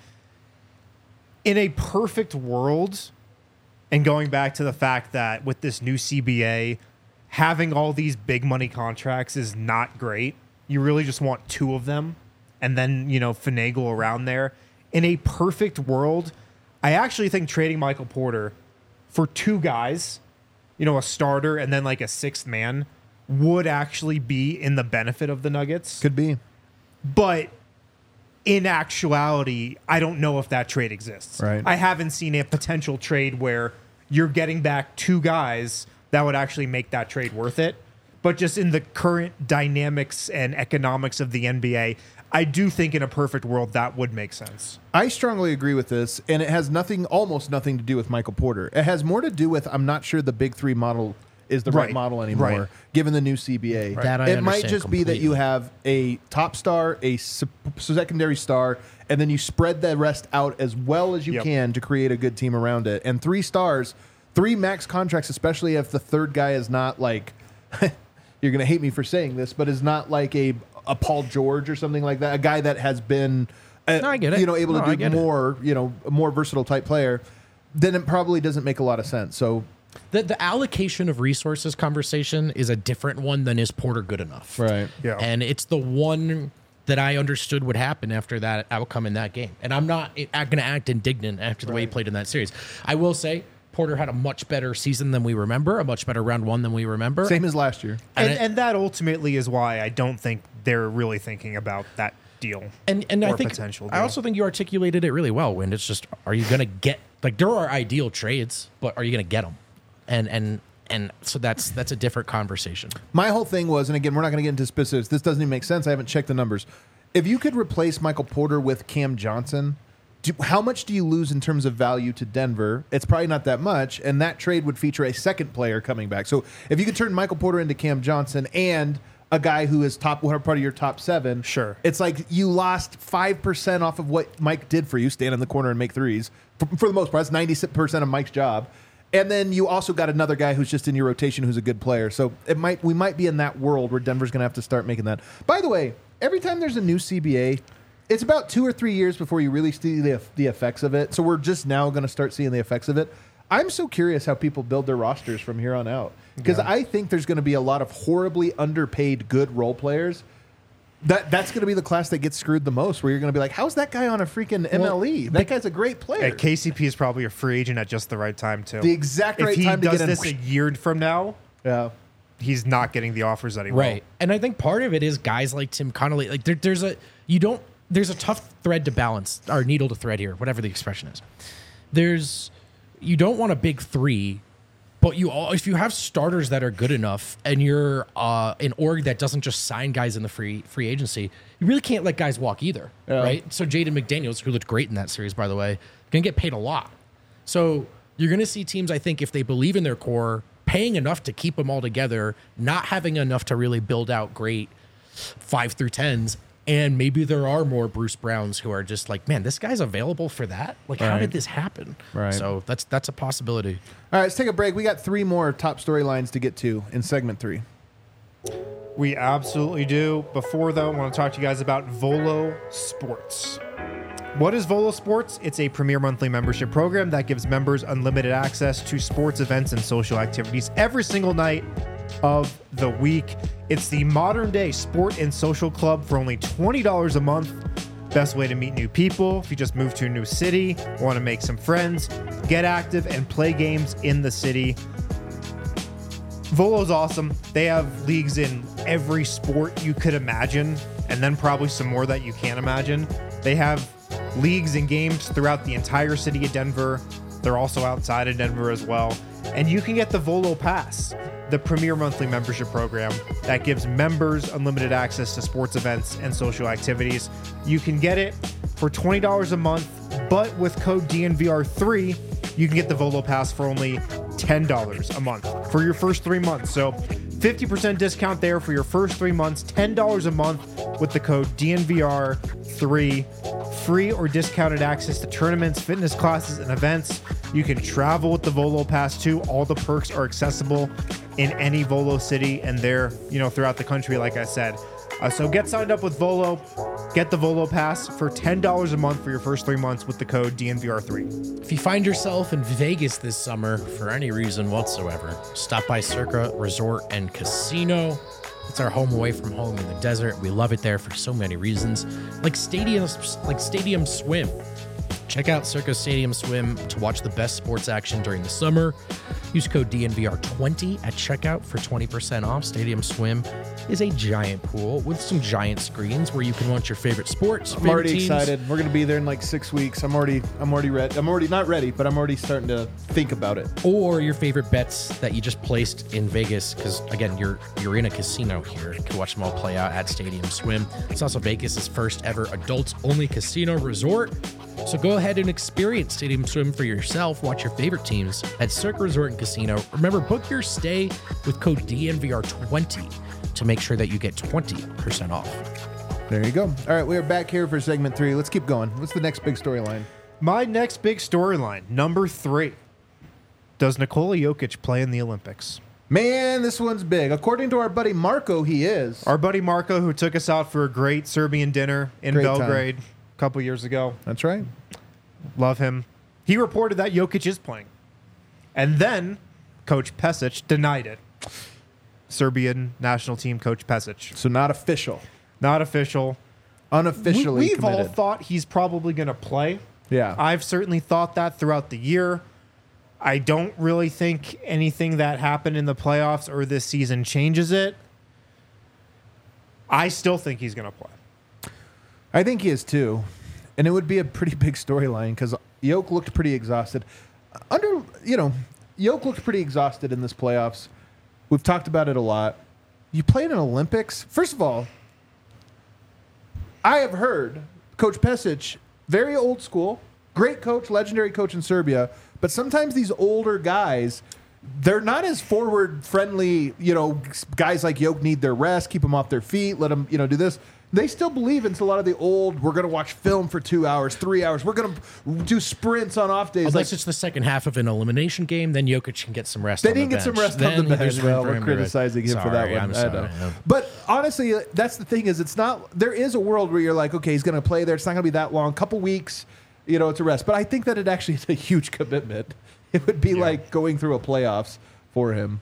In a perfect world, and going back to the fact that with this new CBA, having all these big money contracts is not great. You really just want two of them, and then finagle around there. In a perfect world, I actually think trading Michael Porter for two guys, a starter and then like a sixth man, would actually be in the benefit of the Nuggets. Could be. But in actuality, I don't know if that trade exists. Right. I haven't seen a potential trade where you're getting back two guys that would actually make that trade worth it. But just in the current dynamics and economics of the NBA, I do think in a perfect world that would make sense. I strongly agree with this, and it has almost nothing to do with Michael Porter. It has more to do with I'm not sure the Big Three model is the right model anymore, given the new CBA. That I it might understand just be that you have a top star, a secondary star, and then you spread the rest out as well as you can to create a good team around it. And 3 stars, 3 max contracts, especially if the third guy is not like, you're going to hate me for saying this, but is not like a Paul George or something like that, a guy that has been I get it. Able to do more, a more versatile type player, then it probably doesn't make a lot of sense. So the allocation of resources conversation is a different one than is Porter good enough. Right. Yeah. And it's the one that I understood would happen after that outcome in that game. And I'm not going to act indignant after the way he played in that series. I will say Porter had a much better season than we remember, a much better round one than we remember. Same as last year. And that ultimately is why I don't think they're really thinking about that deal. And I think potential I deal. also think you articulated it really well, Wind. It's just, are you going to get, like, there are ideal trades, but are you going to get them? And so that's a different conversation. My whole thing was, and again, we're not going to get into specifics. This doesn't even make sense. I haven't checked the numbers. If you could replace Michael Porter with Cam Johnson, how much do you lose in terms of value to Denver? It's probably not that much, and that trade would feature a second player coming back. So if you could turn Michael Porter into Cam Johnson and a guy who is part of your top 7. Sure. It's like you lost 5% off of what Mike did for you, stand in the corner and make threes. For the most part, that's 90% of Mike's job. And then you also got another guy who's just in your rotation who's a good player. So we might be in that world where Denver's going to have to start making that. By the way, every time there's a new CBA, it's about 2 or 3 years before you really see the effects of it. So we're just now going to start seeing the effects of it. I'm so curious how people build their rosters from here on out. Because I think there's going to be a lot of horribly underpaid good role players. That's going to be the class that gets screwed the most, where you're going to be like, how's that guy on a freaking MLE? That guy's a great player. And KCP is probably a free agent at just the right time, too. The exact right time to get in. If he does this a year from now, yeah, he's not getting the offers that he wants. Right. And I think part of it is guys like Tim Connolly. Like there's a tough thread to balance, or needle to thread here, whatever the expression is. You don't want a big 3. But if you have starters that are good enough, and you're an org that doesn't just sign guys in the free agency, you really can't let guys walk either, right? So Jaden McDaniels, who looked great in that series, by the way, going to get paid a lot. So you're going to see teams, I think, if they believe in their core, paying enough to keep them all together, not having enough to really build out great 5 through 10s. And maybe there are more Bruce Browns who are just like, man, this guy's available for that. Like, how did this happen? Right. So that's a possibility. All right, let's take a break. We got 3 more top storylines to get to in segment 3. We absolutely do. Before, though, I want to talk to you guys about Volo Sports. What is Volo Sports? It's a premier monthly membership program that gives members unlimited access to sports events and social activities every single night of the week. It's the modern day sport and social club for only $20 a month. Best way to meet new people. If you just moved to a new city, want to make some friends, get active and play games in the city. Volo's awesome. They have leagues in every sport you could imagine, and then probably some more that you can't imagine. They have leagues and games throughout the entire city of Denver. They're also outside of Denver as well. And you can get the Volo Pass, the premier monthly membership program that gives members unlimited access to sports events and social activities. You can get it for $20 a month, but with code DNVR3, you can get the Volo Pass for only $10 a month for your first 3 months. So 50% discount there for your first 3 months, $10 a month with the code DNVR3. Free or discounted access to tournaments, fitness classes, and events. You can travel with the Volo Pass too. All the perks are accessible in any Volo city, and they're, throughout the country, like I said. So get signed up with Volo. Get the Volo Pass for $10 a month for your first 3 months with the code DNVR3. If you find yourself in Vegas this summer for any reason whatsoever, stop by Circa Resort and Casino. It's our home away from home in the desert. We love it there for so many reasons, like Stadium Swim. Check out Circa Stadium Swim to watch the best sports action during the summer. Use code DNVR20 at checkout for 20% off. Stadium Swim is a giant pool with some giant screens where you can watch your favorite sports. I'm already excited. We're going to be there in like 6 weeks. I'm already ready. I'm already not ready, but I'm already starting to think about it. Or your favorite bets that you just placed in Vegas, because again, you're in a casino here. You can watch them all play out at Stadium Swim. It's also Vegas's first ever adults-only casino resort. So go ahead and experience Stadium Swim for yourself. Watch your favorite teams at Circa Resort and Casino. Remember, book your stay with code DNVR20 to make sure that you get 20% off. There you go. All right, we are back here for segment 3. Let's keep going. What's the next big storyline? My next big storyline, number 3. Does Nikola Jokic play in the Olympics? Man, this one's big. According to our buddy Marco, he is. Our buddy Marco, who took us out for a great Serbian dinner in Belgrade a couple years ago. That's right. Love him. He reported that Jokic is playing. And then Coach Pesic denied it. Serbian national team coach Pesic. So not official. Not official. Unofficially We've committed. all thought he's probably going to play. Yeah. I've certainly thought that throughout the year. I don't really think anything that happened in the playoffs or this season changes it. I still think he's going to play. I think he is too. And it would be a pretty big storyline because Jokic looked pretty exhausted. Jokic looked pretty exhausted in this playoffs. We've talked about it a lot. You play in an Olympics. First of all, I have heard Coach Pesic, very old school, great coach, legendary coach in Serbia, but sometimes these older guys, they're not as forward friendly. Guys like Yoke need their rest, keep them off their feet, let them do this. They still believe in a lot of the old, we're going to watch film for 2 hours, 3 hours. We're going to do sprints on off days. Unless it's the second half of an elimination game, then Jokic can get some rest They on the didn't get some bench. rest on the Then bench. there's room Well, for we're him to criticizing him for that Sorry, one. I'm I sorry. know. Yeah. But honestly, that's the thing is it's not, there is a world where you're like, okay, he's going to play there. It's not going to be that long. Couple weeks, it's a rest. But I think that it actually is a huge commitment. It would be like going through a playoffs for him.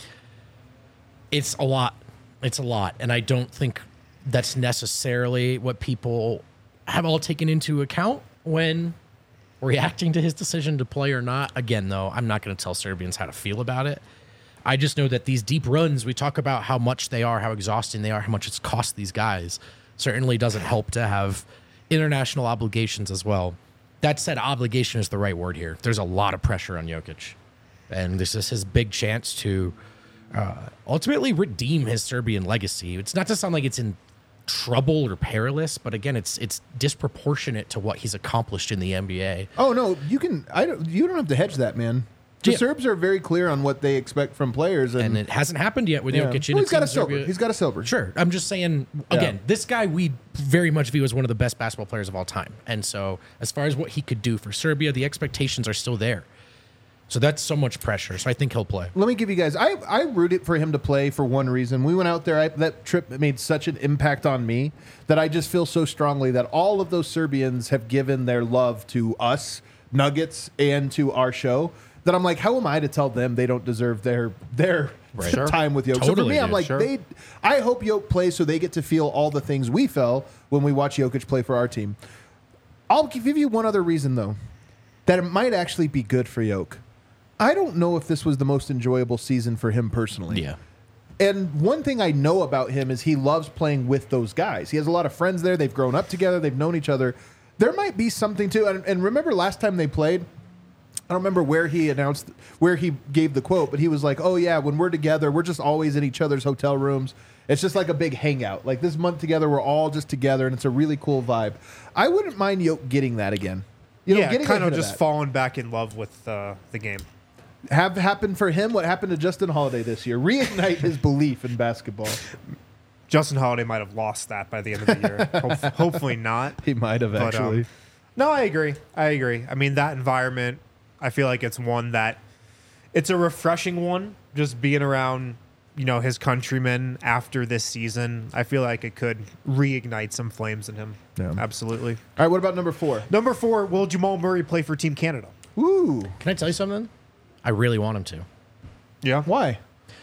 It's a lot. It's a lot. And I don't think that's necessarily what people have all taken into account when reacting to his decision to play or not. Again, though, I'm not going to tell Serbians how to feel about it. I just know that these deep runs, we talk about how much they are, how exhausting they are, how much it's cost these guys, certainly doesn't help to have international obligations as well. That said, obligation is the right word here. There's a lot of pressure on Jokic. And this is his big chance to ultimately redeem his Serbian legacy. It's not to sound like it's in trouble or perilous, but again, it's disproportionate to what he's accomplished in the NBA. Oh no, you don't have to hedge that, man. The Yeah. Serbs are very clear on what they expect from players, And it hasn't happened yet with yeah. Jokic. Well, And he's got a silver. He's got a silver. Sure. I'm just saying, again, this guy we very much view as one of the best basketball players of all time. And so as far as what he could do for Serbia, the expectations are still there. So that's so much pressure. So I think he'll play. Let me give you guys. I rooted for him to play for one reason. We went out there. That trip made such an impact on me that I just feel so strongly that all of those Serbians have given their love to us, Nuggets, and to our show. That I'm like, how am I to tell them they don't deserve their Sure. time with Yoke? So for Totally, me, I'm dude. like, Sure. I hope Yoke plays so they get to feel all the things we felt when we watch Jokic play for our team. I'll give you one other reason though, that it might actually be good for Yoke. I don't know if this was the most enjoyable season for him personally. Yeah. And one thing I know about him is he loves playing with those guys. He has a lot of friends there. They've grown up together. They've known each other. There might be something too. And remember last time they played, I don't remember where he gave the quote, but he was like, oh yeah, when we're together, we're just always in each other's hotel rooms. It's just like a big hangout. Like this month together, we're all just together, and it's a really cool vibe. I wouldn't mind Yoke getting that again. Getting kind of ahead just that. falling back in love with the game. Have happened for him what happened to Justin Holiday this year. Reignite his belief in basketball. Justin Holiday might have lost that by the end of the year. Hopefully not. He might have But, actually. No, I agree. I mean, that environment, I feel like it's one that it's a refreshing one. Just being around, his countrymen after this season, I feel like it could reignite some flames in him. Yeah. Absolutely. All right, what about number 4? Number 4, will Jamal Murray play for Team Canada? Ooh, Can I tell you something? I really want him to. Yeah. why?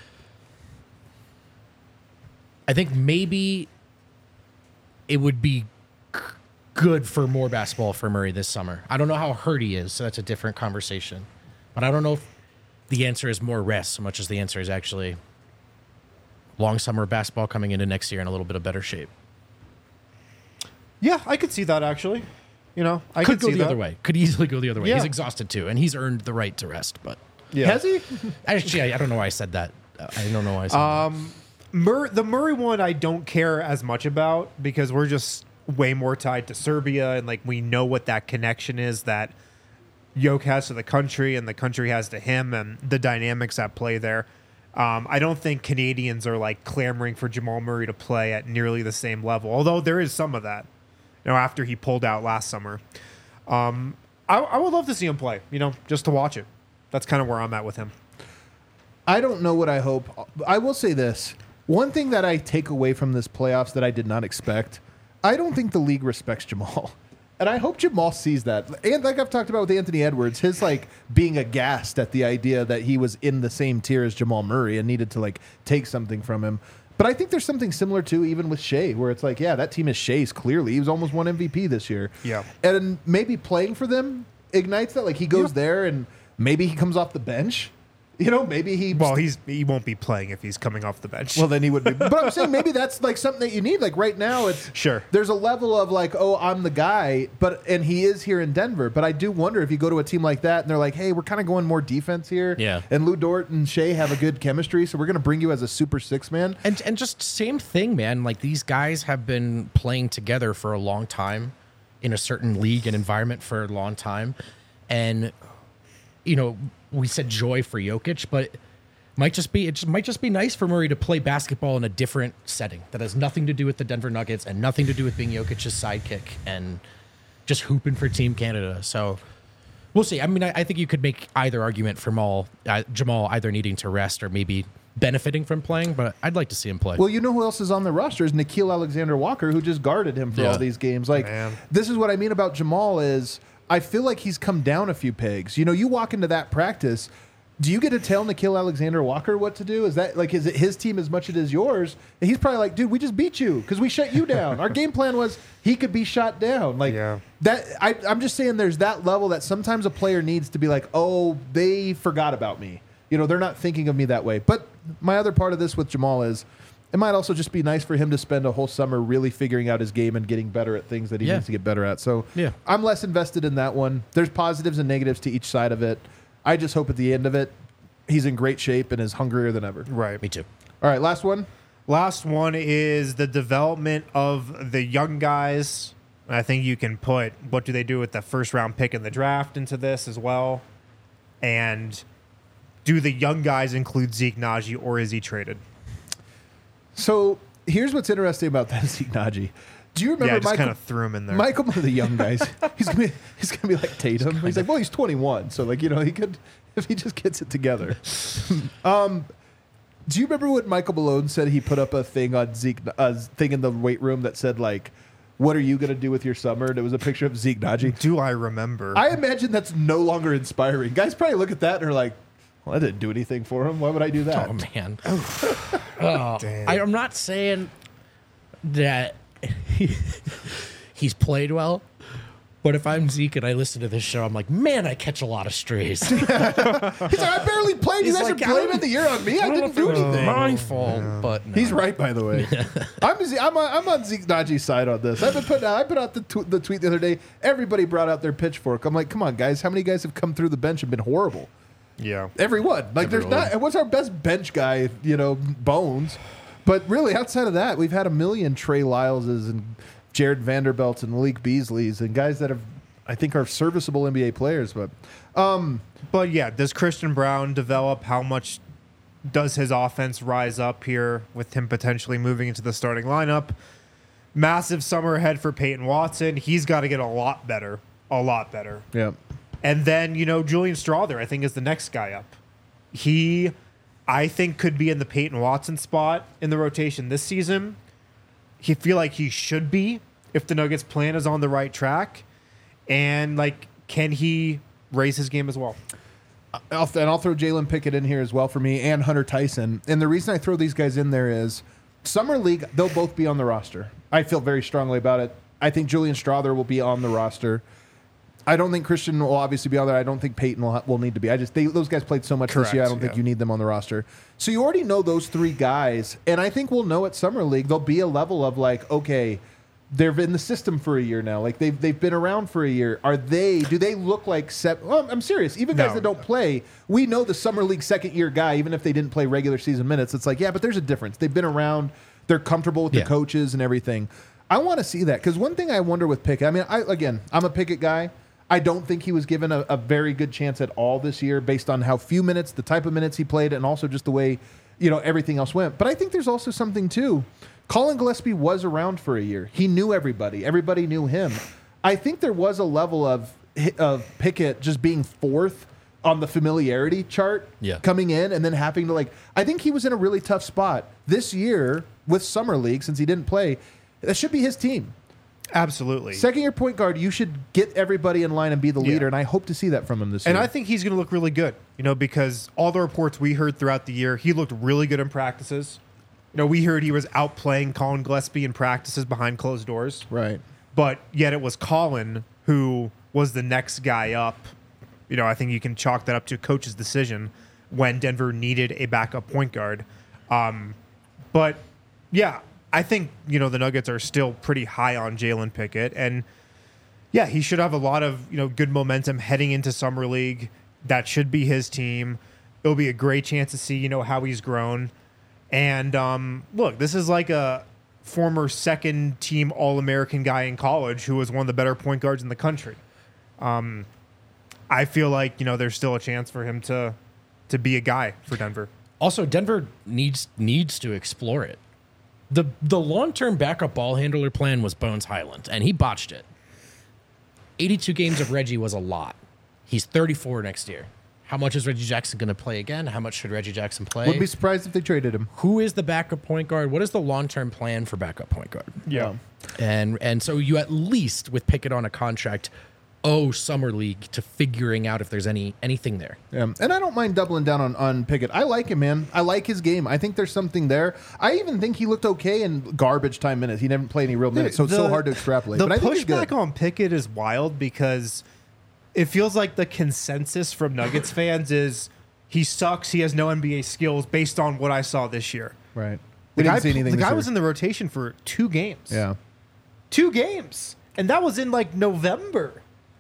I think maybe it would be good for more basketball for Murray this summer. I don't know how hurt he is, so that's a different conversation. But I don't know if the answer is more rest so much as the answer is actually long summer basketball coming into next year in a little bit of better shape. Yeah, I could see that actually. I Could go see the that. other way. Could easily go the other way. Yeah. He's exhausted too, and he's earned the right to rest. But Yeah. Has he? actually, I don't know why I said that. I don't know why I said that. The Murray one I don't care as much about because we're just way more tied to Serbia and we know what that connection is that Yoke has to the country and the country has to him and the dynamics at play there. I don't think Canadians are clamoring for Jamal Murray to play at nearly the same level, although there is some of that. After he pulled out last summer, I would love to see him play. Just to watch it. That's kind of where I'm at with him. I don't know what I hope. I will say this. One thing that I take away from this playoffs that I did not expect, I don't think the league respects Jamal. And I hope Jamal sees that. And like I've talked about with Anthony Edwards, his being aghast at the idea that he was in the same tier as Jamal Murray and needed to take something from him. But I think there's something similar too, even with Shea, where it's yeah, that team is Shea's clearly. He was almost won MVP this year. Yeah. And maybe playing for them ignites that. He goes there and maybe he comes off the bench. Maybe he... Well, he won't be playing if he's coming off the bench. Well, then he would be. But I'm saying maybe that's something that you need. Right now, it's... Sure. There's a level of oh, I'm the guy, and he is here in Denver. But I do wonder if you go to a team like that and they're like, hey, we're kind of going more defense here. Yeah. And Lou Dort and Shea have a good chemistry, so we're going to bring you as a super six man. And just same thing, man. These guys have been playing together for a long time in a certain league and environment for a long time. And, we said joy for Jokic, but it might just be nice for Murray to play basketball in a different setting that has nothing to do with the Denver Nuggets and nothing to do with being Jokic's sidekick and just hooping for Team Canada. So we'll see. I mean, I think you could make either argument for Jamal either needing to rest or maybe benefiting from playing, but I'd like to see him play. Well, you know who else is on the roster is Nickeil Alexander-Walker, who just guarded him for all these games. Like, this is what I mean about Jamal is I feel like he's come down a few pegs. You know, you walk into that practice, do you get to tell Nickeil Alexander-Walker what to do? Is it his team as much as it is yours? And he's probably like, dude, we just beat you because we shut you down. Our game plan was he could be shot down. Like that. I'm just saying there's that level that sometimes a player needs to be like, oh, they forgot about me. You know, they're not thinking of me that way. But my other part of this with Jamal is it might also just be nice for him to spend a whole summer really figuring out his game and getting better at things that he needs to get better at. So I'm less invested in that one. There's positives and negatives to each side of it. I just hope at the end of it, he's in great shape and is hungrier than ever. Right. Me too. All right, last one. Last one is the development of the young guys. I think you can put what do they do with the first round pick in the draft into this as well. And do the young guys include Zeke Naji or is he traded? So here's what's interesting about that Zeke Naji. Do you remember? Yeah, I just kind of threw him in there. Michael, one of the young guys, he's gonna be like Tatum. He's like, well, he's 21, so like he could if he just gets it together. Do you remember what Michael Malone said? He put up a thing on Zeke, thing in the weight room that said like, "What are you gonna do with your summer?" And it was a picture of Zeke Naji. Do I remember? I imagine that's no longer inspiring. Guys probably look at that and are like, well, I didn't do anything for him. Why would I do that? Oh man. I'm not saying that he's played well, but if I'm Zeke and I listen to this show, I'm like, man, I catch a lot of strays. He's like, I barely played. You guys are blaming the year on me. I didn't do anything. My fault, but no. He's right, by the way. I'm on Zeke Naji's side on this. I put out the tweet the other day. Everybody brought out their pitchfork. I'm like, come on, guys. How many guys have come through the bench and been horrible? Yeah, everyone. Like, there's not. What's our best bench guy? You know, Bones. But really, outside of that, we've had a million Trey Lyleses and Jared Vanderbilts and Malik Beasleys and guys that I think are serviceable NBA players. But yeah, does Christian Braun develop? How much does his offense rise up here with him potentially moving into the starting lineup? Massive summer ahead for Peyton Watson. He's got to get a lot better. A lot better. Yeah. And then, Julian Strawther, I think, is the next guy up. He, I think, could be in the Peyton Watson spot in the rotation this season. He feel like he should be if the Nuggets plan is on the right track. And, can he raise his game as well? I'll throw Jalen Pickett in here as well for me and Hunter Tyson. And the reason I throw these guys in there is Summer League, they'll both be on the roster. I feel very strongly about it. I think Julian Strawther will be on the roster. I don't think Christian will obviously be on there. I don't think Peyton will need to be. Those guys played so much this year. I don't think you need them on the roster. So you already know those three guys, and I think we'll know at Summer League there'll be a level of okay, they've been in the system for a year now. Like they've been around for a year. Do they look like well, I'm serious. Even guys that don't play, we know the Summer League second year guy, even if they didn't play regular season minutes. It's like, yeah, but there's a difference. They've been around. They're comfortable with the coaches and everything. I want to see that because one thing I wonder with Pickett. I mean, I'm a Pickett guy. I don't think he was given a very good chance at all this year based on how few minutes, the type of minutes he played, and also just the way, everything else went. But I think there's also something, too. Colin Gillespie was around for a year. He knew everybody. Everybody knew him. I think there was a level of Pickett just being fourth on the familiarity chart coming in and then having to, I think he was in a really tough spot. This year with Summer League, since he didn't play, that should be his team. Absolutely. Second-year point guard, you should get everybody in line and be the leader, and I hope to see that from him this year. And I think he's going to look really good, because all the reports we heard throughout the year, he looked really good in practices. We heard he was outplaying Colin Gillespie in practices behind closed doors. Right. But yet it was Colin who was the next guy up. I think you can chalk that up to coach's decision when Denver needed a backup point guard. But, yeah, I think, the Nuggets are still pretty high on Jalen Pickett. And, yeah, he should have a lot of, good momentum heading into Summer League. That should be his team. It'll be a great chance to see, how he's grown. And, look, this is like a former second-team All-American guy in college who was one of the better point guards in the country. I feel like there's still a chance for him to be a guy for Denver. Also, Denver needs to explore it. The long-term backup ball handler plan was Bones Highland, and he botched it. 82 games of Reggie was a lot. He's 34 next year. How much is Reggie Jackson going to play again? How much should Reggie Jackson play? Would be surprised if they traded him. Who is the backup point guard? What is the long-term plan for backup point guard? Yeah. And so you at least, with Pickett on a contract, owe Summer League to figuring out if there's anything there. Yeah. And I don't mind doubling down on Pickett. I like him, man. I like his game. I think there's something there. I even think he looked okay in garbage time minutes. He didn't play any real minutes, so it's so hard to extrapolate. The But I think he's good. pushback on Pickett is wild because it feels like the consensus from Nuggets fans is he sucks. He has no NBA skills based on what I saw this year. Right. The We didn't see anything. the this guy year. was in the rotation for 2 games. Yeah. 2 games. And that was in like November.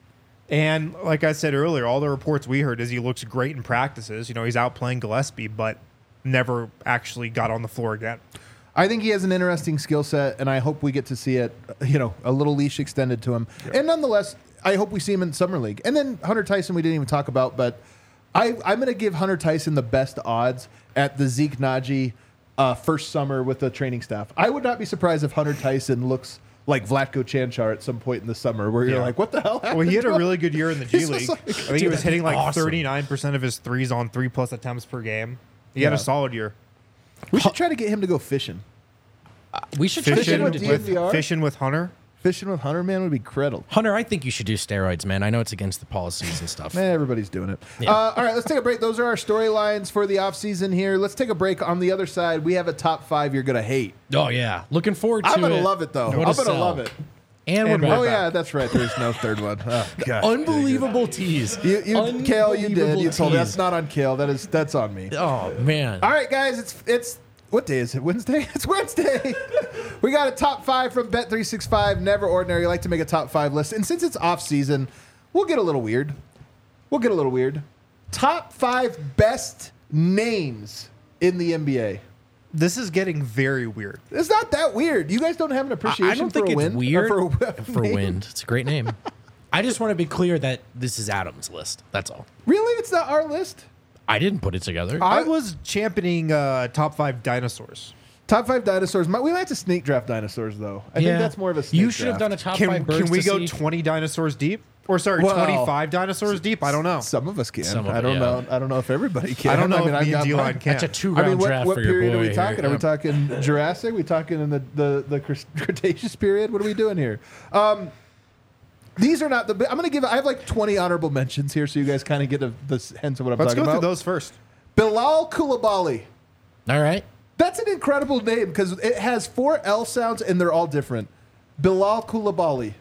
And like I said earlier, all the reports we heard is he looks great in practices. He's out playing Gillespie, but never actually got on the floor again. I think he has an interesting skill set, and I hope we get to see it, a little leash extended to him. Yeah. And nonetheless, I hope we see him in Summer League. And then Hunter Tyson, we didn't even talk about, but I'm going to give Hunter Tyson the best odds at the Zeke Naji first summer with the training staff. I would not be surprised if Hunter Tyson looks like Vlatko Cancar at some point in the summer where you're like, what the hell happened? Well, he had a really good year in the G He's League. just like- I think he was hitting like awesome. 39% of his threes on 3+ attempts per game. He had Yeah. a solid year. We should try to get him to go fishing. We should try to get Fishing him with to do DNVR? Fishing with Hunter. Fishing with Hunter, man, would be incredible. Hunter, I think you should do steroids, man. I know it's against the policies and stuff. Everybody's doing it. Yeah. All right, let's take a break. Those are our storylines for the offseason here. Let's take a break. On the other side, we have a top 5 you're going to hate. Oh, yeah. Looking forward to it. I'm going to love it, though. What I'm a going to sell. love it. And we're And back. Oh, yeah, that's right. There's no third one. Oh, gosh. Unbelievable tease. You Kale, you did. Unbelievable You told me. tease. That's not on Kale. That's on me. Oh, man. All right, guys, it's what day is it? Wednesday? It's Wednesday. We got a top 5 from Bet365. Never ordinary. Like to make a top 5 list. And since it's off season, we'll get a little weird. Top 5 best names in the NBA. This is getting very weird. It's not that weird. You guys don't have an appreciation I don't for think a it's win? weird Or for name? Wind. It's a great name. I just want to be clear that this is Adam's list. That's all. Really? It's not our list? I didn't put it together. I was championing top 5 dinosaurs. Top 5 dinosaurs. We might have to snake draft dinosaurs, though. I think that's more of a snake You should have draft. done a top 5 birds Can we to go see. 20 dinosaurs deep? Or sorry, Well, 25 dinosaurs deep? I don't know. Some of us can. Some of I it, don't yeah. know. I don't know if everybody can. I don't know if I've me and got D-Line mine. can. That's a 2-round draft what for your period boy are we here. talking? Are we talking Jurassic? Are we talking in the Cretaceous period? What are we doing here? These are not the. I'm going to give. I have like 20 honorable mentions here, so you guys kind of get the sense of what I'm Let's talking go about. through those first. Bilal Coulibaly. All right. That's an incredible name because it has 4 L sounds and they're all different. Bilal Coulibaly.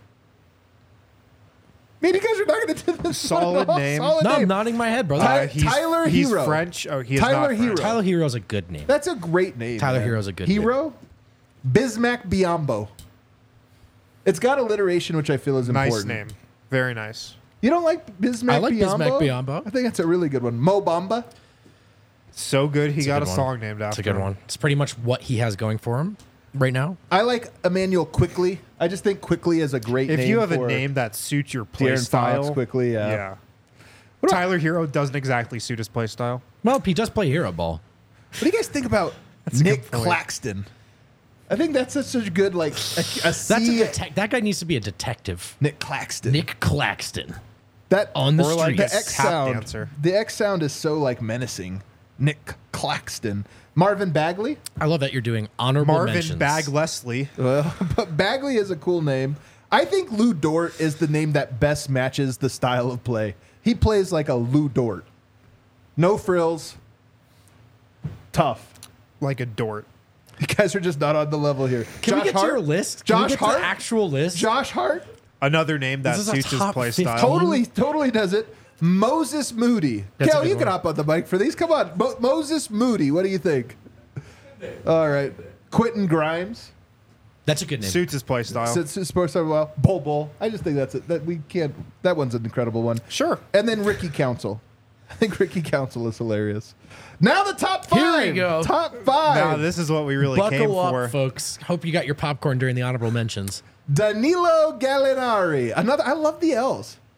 Man, you guys are not going to do this. Solid name. Solid No, name. I'm nodding my head, brother. Tyler he's Hero. French. Oh, he is Tyler not French. Hero. Tyler Hero's a good name. That's a great name. Tyler man. Hero's a good Hero. Bismack Biombo. It's got alliteration, which I feel is Nice important. name. Very nice. You don't like Bismack I like Biombo? Bismack Biombo. I think that's a really good one. Mo Bamba. So good, he It's a got good a one. song named after It's a good him. one. It's pretty much what he has going for him right now. I like Emmanuel Quickly. I just think Quickly is a great name. If you have a for name that suits your play De'Aaron style, Fox, Quickly, yeah. yeah. Tyler Hero doesn't exactly suit his play style. Well, he does play hero ball. What do you guys think about a Nick good point. Claxton? I think that's such a good, like, a That's a C. that guy needs to be a detective. Nick Claxton. Nick Claxton. That on the Or like streets. the X tap sound. dancer. The X sound is so like menacing. Nick Claxton. Marvin Bagley. I love that you're doing honorable Marvin mentions. Bag Leslie. But Bagley is a cool name. I think Lou Dort is the name that best matches the style of play. He plays like a Lou Dort. No frills. Tough. Like a Dort. You guys are just not on the level here. Can we Josh get to Hart? your list? Can we Josh get to Hart? the actual list? Josh Hart? Another name that This is a suits his top play 15. style. Totally does it. Moses Moody. That's a Kel, good you can one. hop on the mic for these. Come on. Moses Moody. What do you think? All right. Quentin Grimes. That's a good name. Suits his play style. Sports star, well, Bol. I just think that's it. That we can't. That one's an incredible one. Sure. And then Ricky Council. I think Ricky Council is hilarious. Now the top 5. Here we go. Top 5. Now this is what we really came Buckle up, for. folks. Hope you got your popcorn during the honorable mentions. Danilo Gallinari. Another. I love the L's.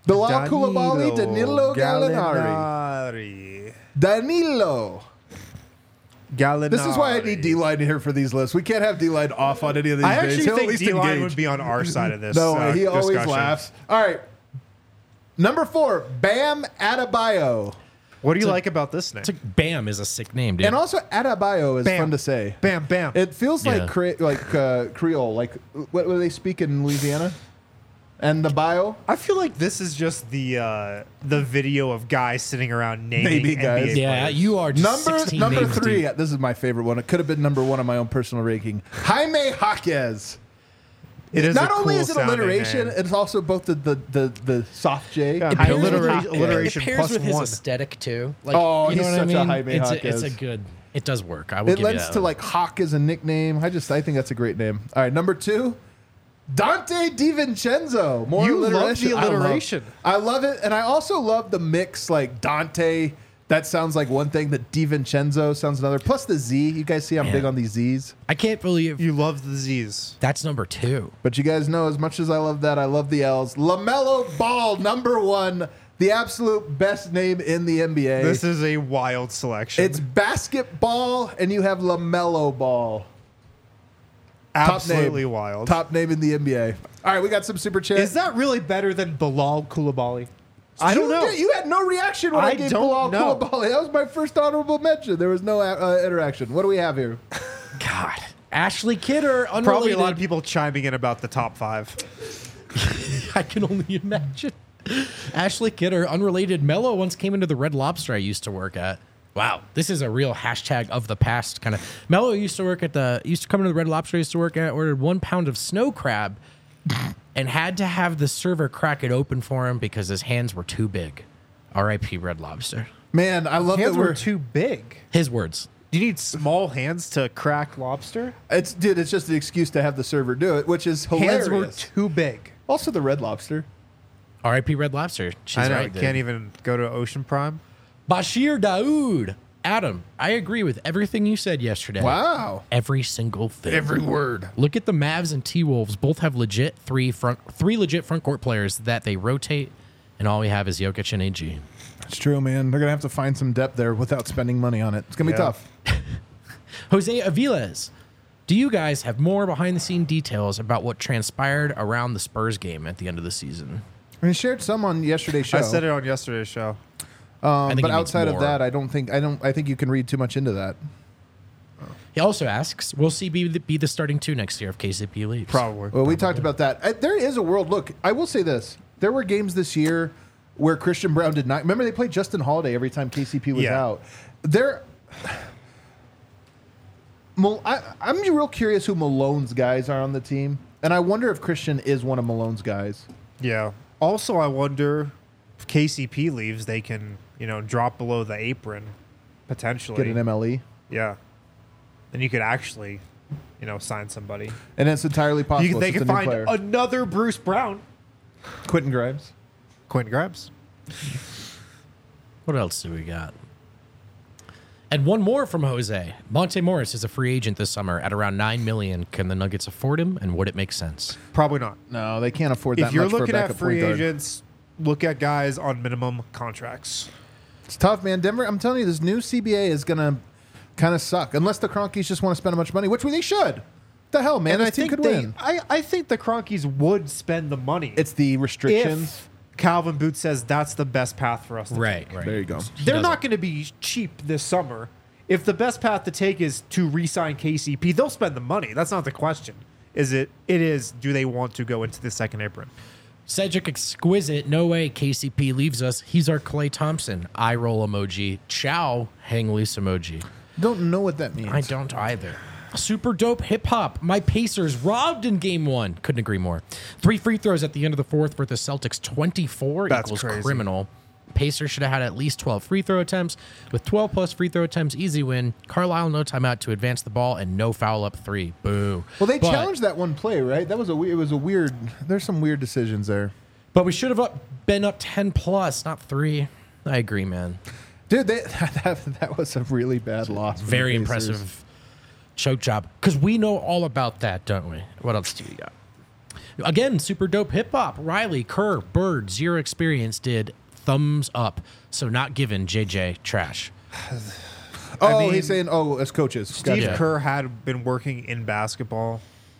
Bilal Koulibaly, Danilo Gallinari. Danilo. Gallinari. This is why I need D-line here for these lists. We can't have D-line off on any of these I days. actually He'll at think least D-line engage. would be on our side of this. No, he always discussion. laughs. All right. Number 4, Bam Adebayo. What do you like about this name? It's like Bam is a sick name, dude. And also Adebayo is Bam. fun to say. Bam, bam. It feels Yeah. like Creole, like what do they speak in Louisiana? And the bio? I feel like this is just the video of guys sitting around naming Maybe, guys. NBA yeah, players. you are just 16 Number names 3. deep. This is my favorite one. It could have been number 1 on my own personal ranking. Jaime Jaquez. It is Not a only cool is it sounding alliteration, name. it's also both the soft J. Yeah, It pairs with- alliteration it pairs plus with his one. aesthetic too. Like, Oh, you know he's what I such a mean? Jaime It's Jaquez. a good. It does work. I will It give you lends that to one. like Hawk as a nickname. I think that's a great name. All right, number 2, Dante DiVincenzo. More You love alliteration. the alliteration. I love it, and I also love the mix. Like Dante, that sounds like one thing. That DiVincenzo sounds another. Plus the Z. You guys see I'm Yeah. big on these Z's. I can't believe You love the Z's. that's number 2. But you guys know, as much as I love that, I love the L's. LaMelo Ball, number 1, the absolute best name in the NBA. This is a wild selection. It's basketball, and you have LaMelo Ball. absolutely name. wild. Top name in the NBA. All right, we got some super chat. Is that really better than Bilal Koulibaly? I don't know. You had no reaction when I I gave don't Bilal know. Koulibaly. That was my first honorable mention. There was no interaction. What do we have here? God, Ashley Kidder, unrelated. Probably a lot of people chiming in about the top 5. I can only imagine. Ashley Kidder, unrelated. Mello once came into the Red Lobster I used to work at. Wow, this is a real hashtag of the past kind of. Mello used to come into the Red Lobster I used to work at, ordered 1 pound of snow crab, and had to have the server crack it open for him because his hands were too big. R.I.P. Red Lobster. Man, I love Hands that were we're too big. His words. Do you need small hands to crack lobster? It's just an excuse to have the server do it, which is hilarious. Hands were too big. Also, the Red Lobster. R.I.P. Red Lobster. She's I know. right. I dude. can't even go to Ocean Prime. Bashir Daoud. Adam, I agree with everything you said yesterday. Wow. Every single thing. Every word. Look at the Mavs and T-Wolves. Both have three legit front court players that they rotate, and all we have is Jokic and AG. It's true, man. They're going to have to find some depth there without spending money on it. It's going to be Yeah. tough. Jose Aviles, do you guys have more behind-the-scene details about what transpired around the Spurs game at the end of the season? I shared some on yesterday's show. I said it on yesterday's show. I think but he means outside of more. that, I think you can read too much into that. He also asks, will CB be the starting 2 next year if KCP leaves? Probably. Well, we talked about that. There is a world. Look, I will say this. There were games this year where Christian Brown did not. Remember, they played Justin Holiday every time KCP was Yeah. out. I'm real curious who Malone's guys are on the team. And I wonder if Christian is one of Malone's guys. Yeah. Also, I wonder if KCP leaves, they can, drop below the apron potentially. Get an MLE. Yeah. Then you could actually, sign somebody. And it's entirely possible. They It's can just a new find player. another Bruce Brown. Quentin Grimes. Quentin Grimes. What else do we got? And one more from Jose. Monte Morris is a free agent this summer at around $9 million. Can the Nuggets afford him, and would it make sense? Probably not. No, they can't afford that If you're much for a looking at backup free point guard. agents, look at guys on minimum contracts. It's tough, man. Denver, I'm telling you, this new CBA is going to kind of suck. Unless the Cronkies just want to spend a bunch of money, which they should. The hell, man. And This I team think could win. I think the Cronkies would spend the money. It's the restrictions. if Calvin Booth says that's the best path for us to take. There you go. They're not going to be cheap this summer. If the best path to take is to re-sign KCP, they'll spend the money. That's not the question. It is, do they want to go into the second apron? Cedric Exquisite, no way KCP leaves us. He's our Klay Thompson. Eye roll emoji. Ciao, hang loose emoji. Don't know what that means. I don't either. Super dope hip hop. My Pacers robbed in game 1. Couldn't agree more. 3 free throws at the end of the fourth for the Celtics. 24 That's equals crazy. criminal. Pacers should have had at least 12 free throw attempts. With 12 plus free throw attempts, easy win. Carlisle, no timeout to advance the ball and no foul up 3. Boo. Well, they But- challenged that one play, right? That was it was a weird. There's some weird decisions there, But we should have been up 10 plus, not 3. I agree, man. dude. That was a really bad loss. for the Very Pacers. impressive choke job. Because we know all about that, don't we? What else do you got? Again, super dope hip hop. Riley, Kerr, Bird, Zero Experience did thumbs up. So not given JJ trash. Oh, mean, he's saying, as coaches. Steve Gotcha. Kerr had been working in basketball.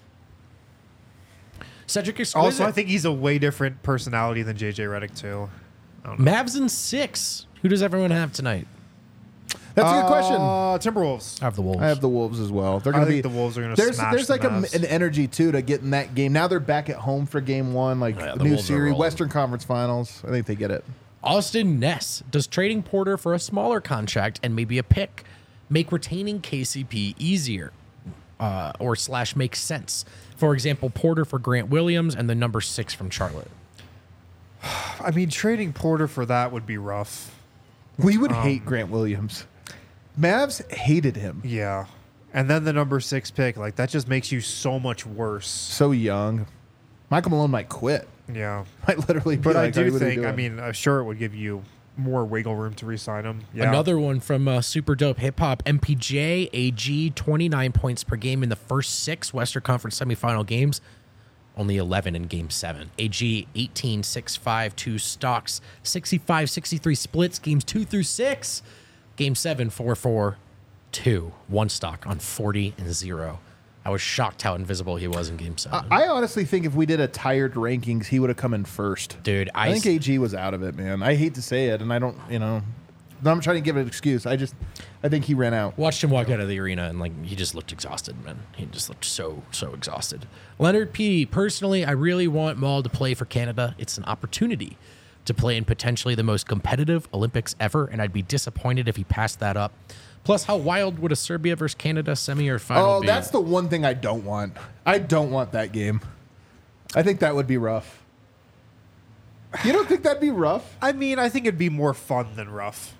Cedric Exquisite. Also, I think he's a way different personality than JJ Redick too. Mavs in 6. Who does everyone have tonight? That's a good question. Timberwolves. I have the Wolves. I have the Wolves as well. They're I going to think be the Wolves are gonna There's smash like the Mavs. an energy too to get in that game. Now they're back at home for game 1, like Yeah, the new Wolves are series, rolling. Western Conference Finals. I think they get it. Austin Ness. Does trading Porter for a smaller contract and maybe a pick make retaining KCP easier or / make sense? For example, Porter for Grant Williams and the number 6 from Charlotte. I mean, trading Porter for that would be rough. We would hate Grant Williams. Mavs hated him. Yeah. And then the number 6 pick, like that just makes you so much worse. So young. Michael Malone might quit. Yeah. Might literally be But like, I "Hey, do what are we think, I doing?" mean, sure, it would give you more wiggle room to re-sign him. Yeah. Another one from Super Dope Hip Hop. MPJ, AG, 29 points per game in the first 6 Western Conference semifinal games. Only 11 in Game 7. AG, 18, 6, 5, 2 stocks, 65, 63 splits, games 2 through 6. Game 7, 4, 4, 2. 1 stock on 40 and 0. I was shocked how invisible he was in Game 7. I honestly think if we did a tired rankings, he would have come in first. Dude, I think AG was out of it, man. I hate to say it, and I don't, I'm trying to give an excuse. I think he ran out. watched him walk out of the arena and he just looked exhausted, man. He just looked so exhausted. Leonard P. Personally, I really want Maul to play for Canada. It's an opportunity to play in potentially the most competitive Olympics ever, and I'd be disappointed if he passed that up. Plus, how wild would a Serbia versus Canada semi or final be? That's the one thing I don't want. I don't want that game. I think that would be rough. You don't think that'd be rough? I mean, I think it'd be more fun than rough.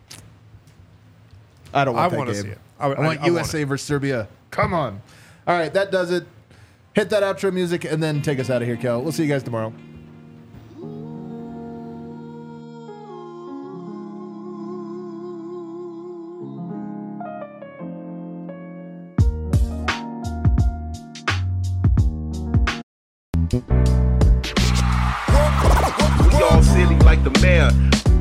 I don't want I that wanna game. see it. I want USA versus Serbia. Come on. All right, that does it. Hit that outro music and then take us out of here, Kel. We'll see you guys tomorrow. We all silly like the mayor.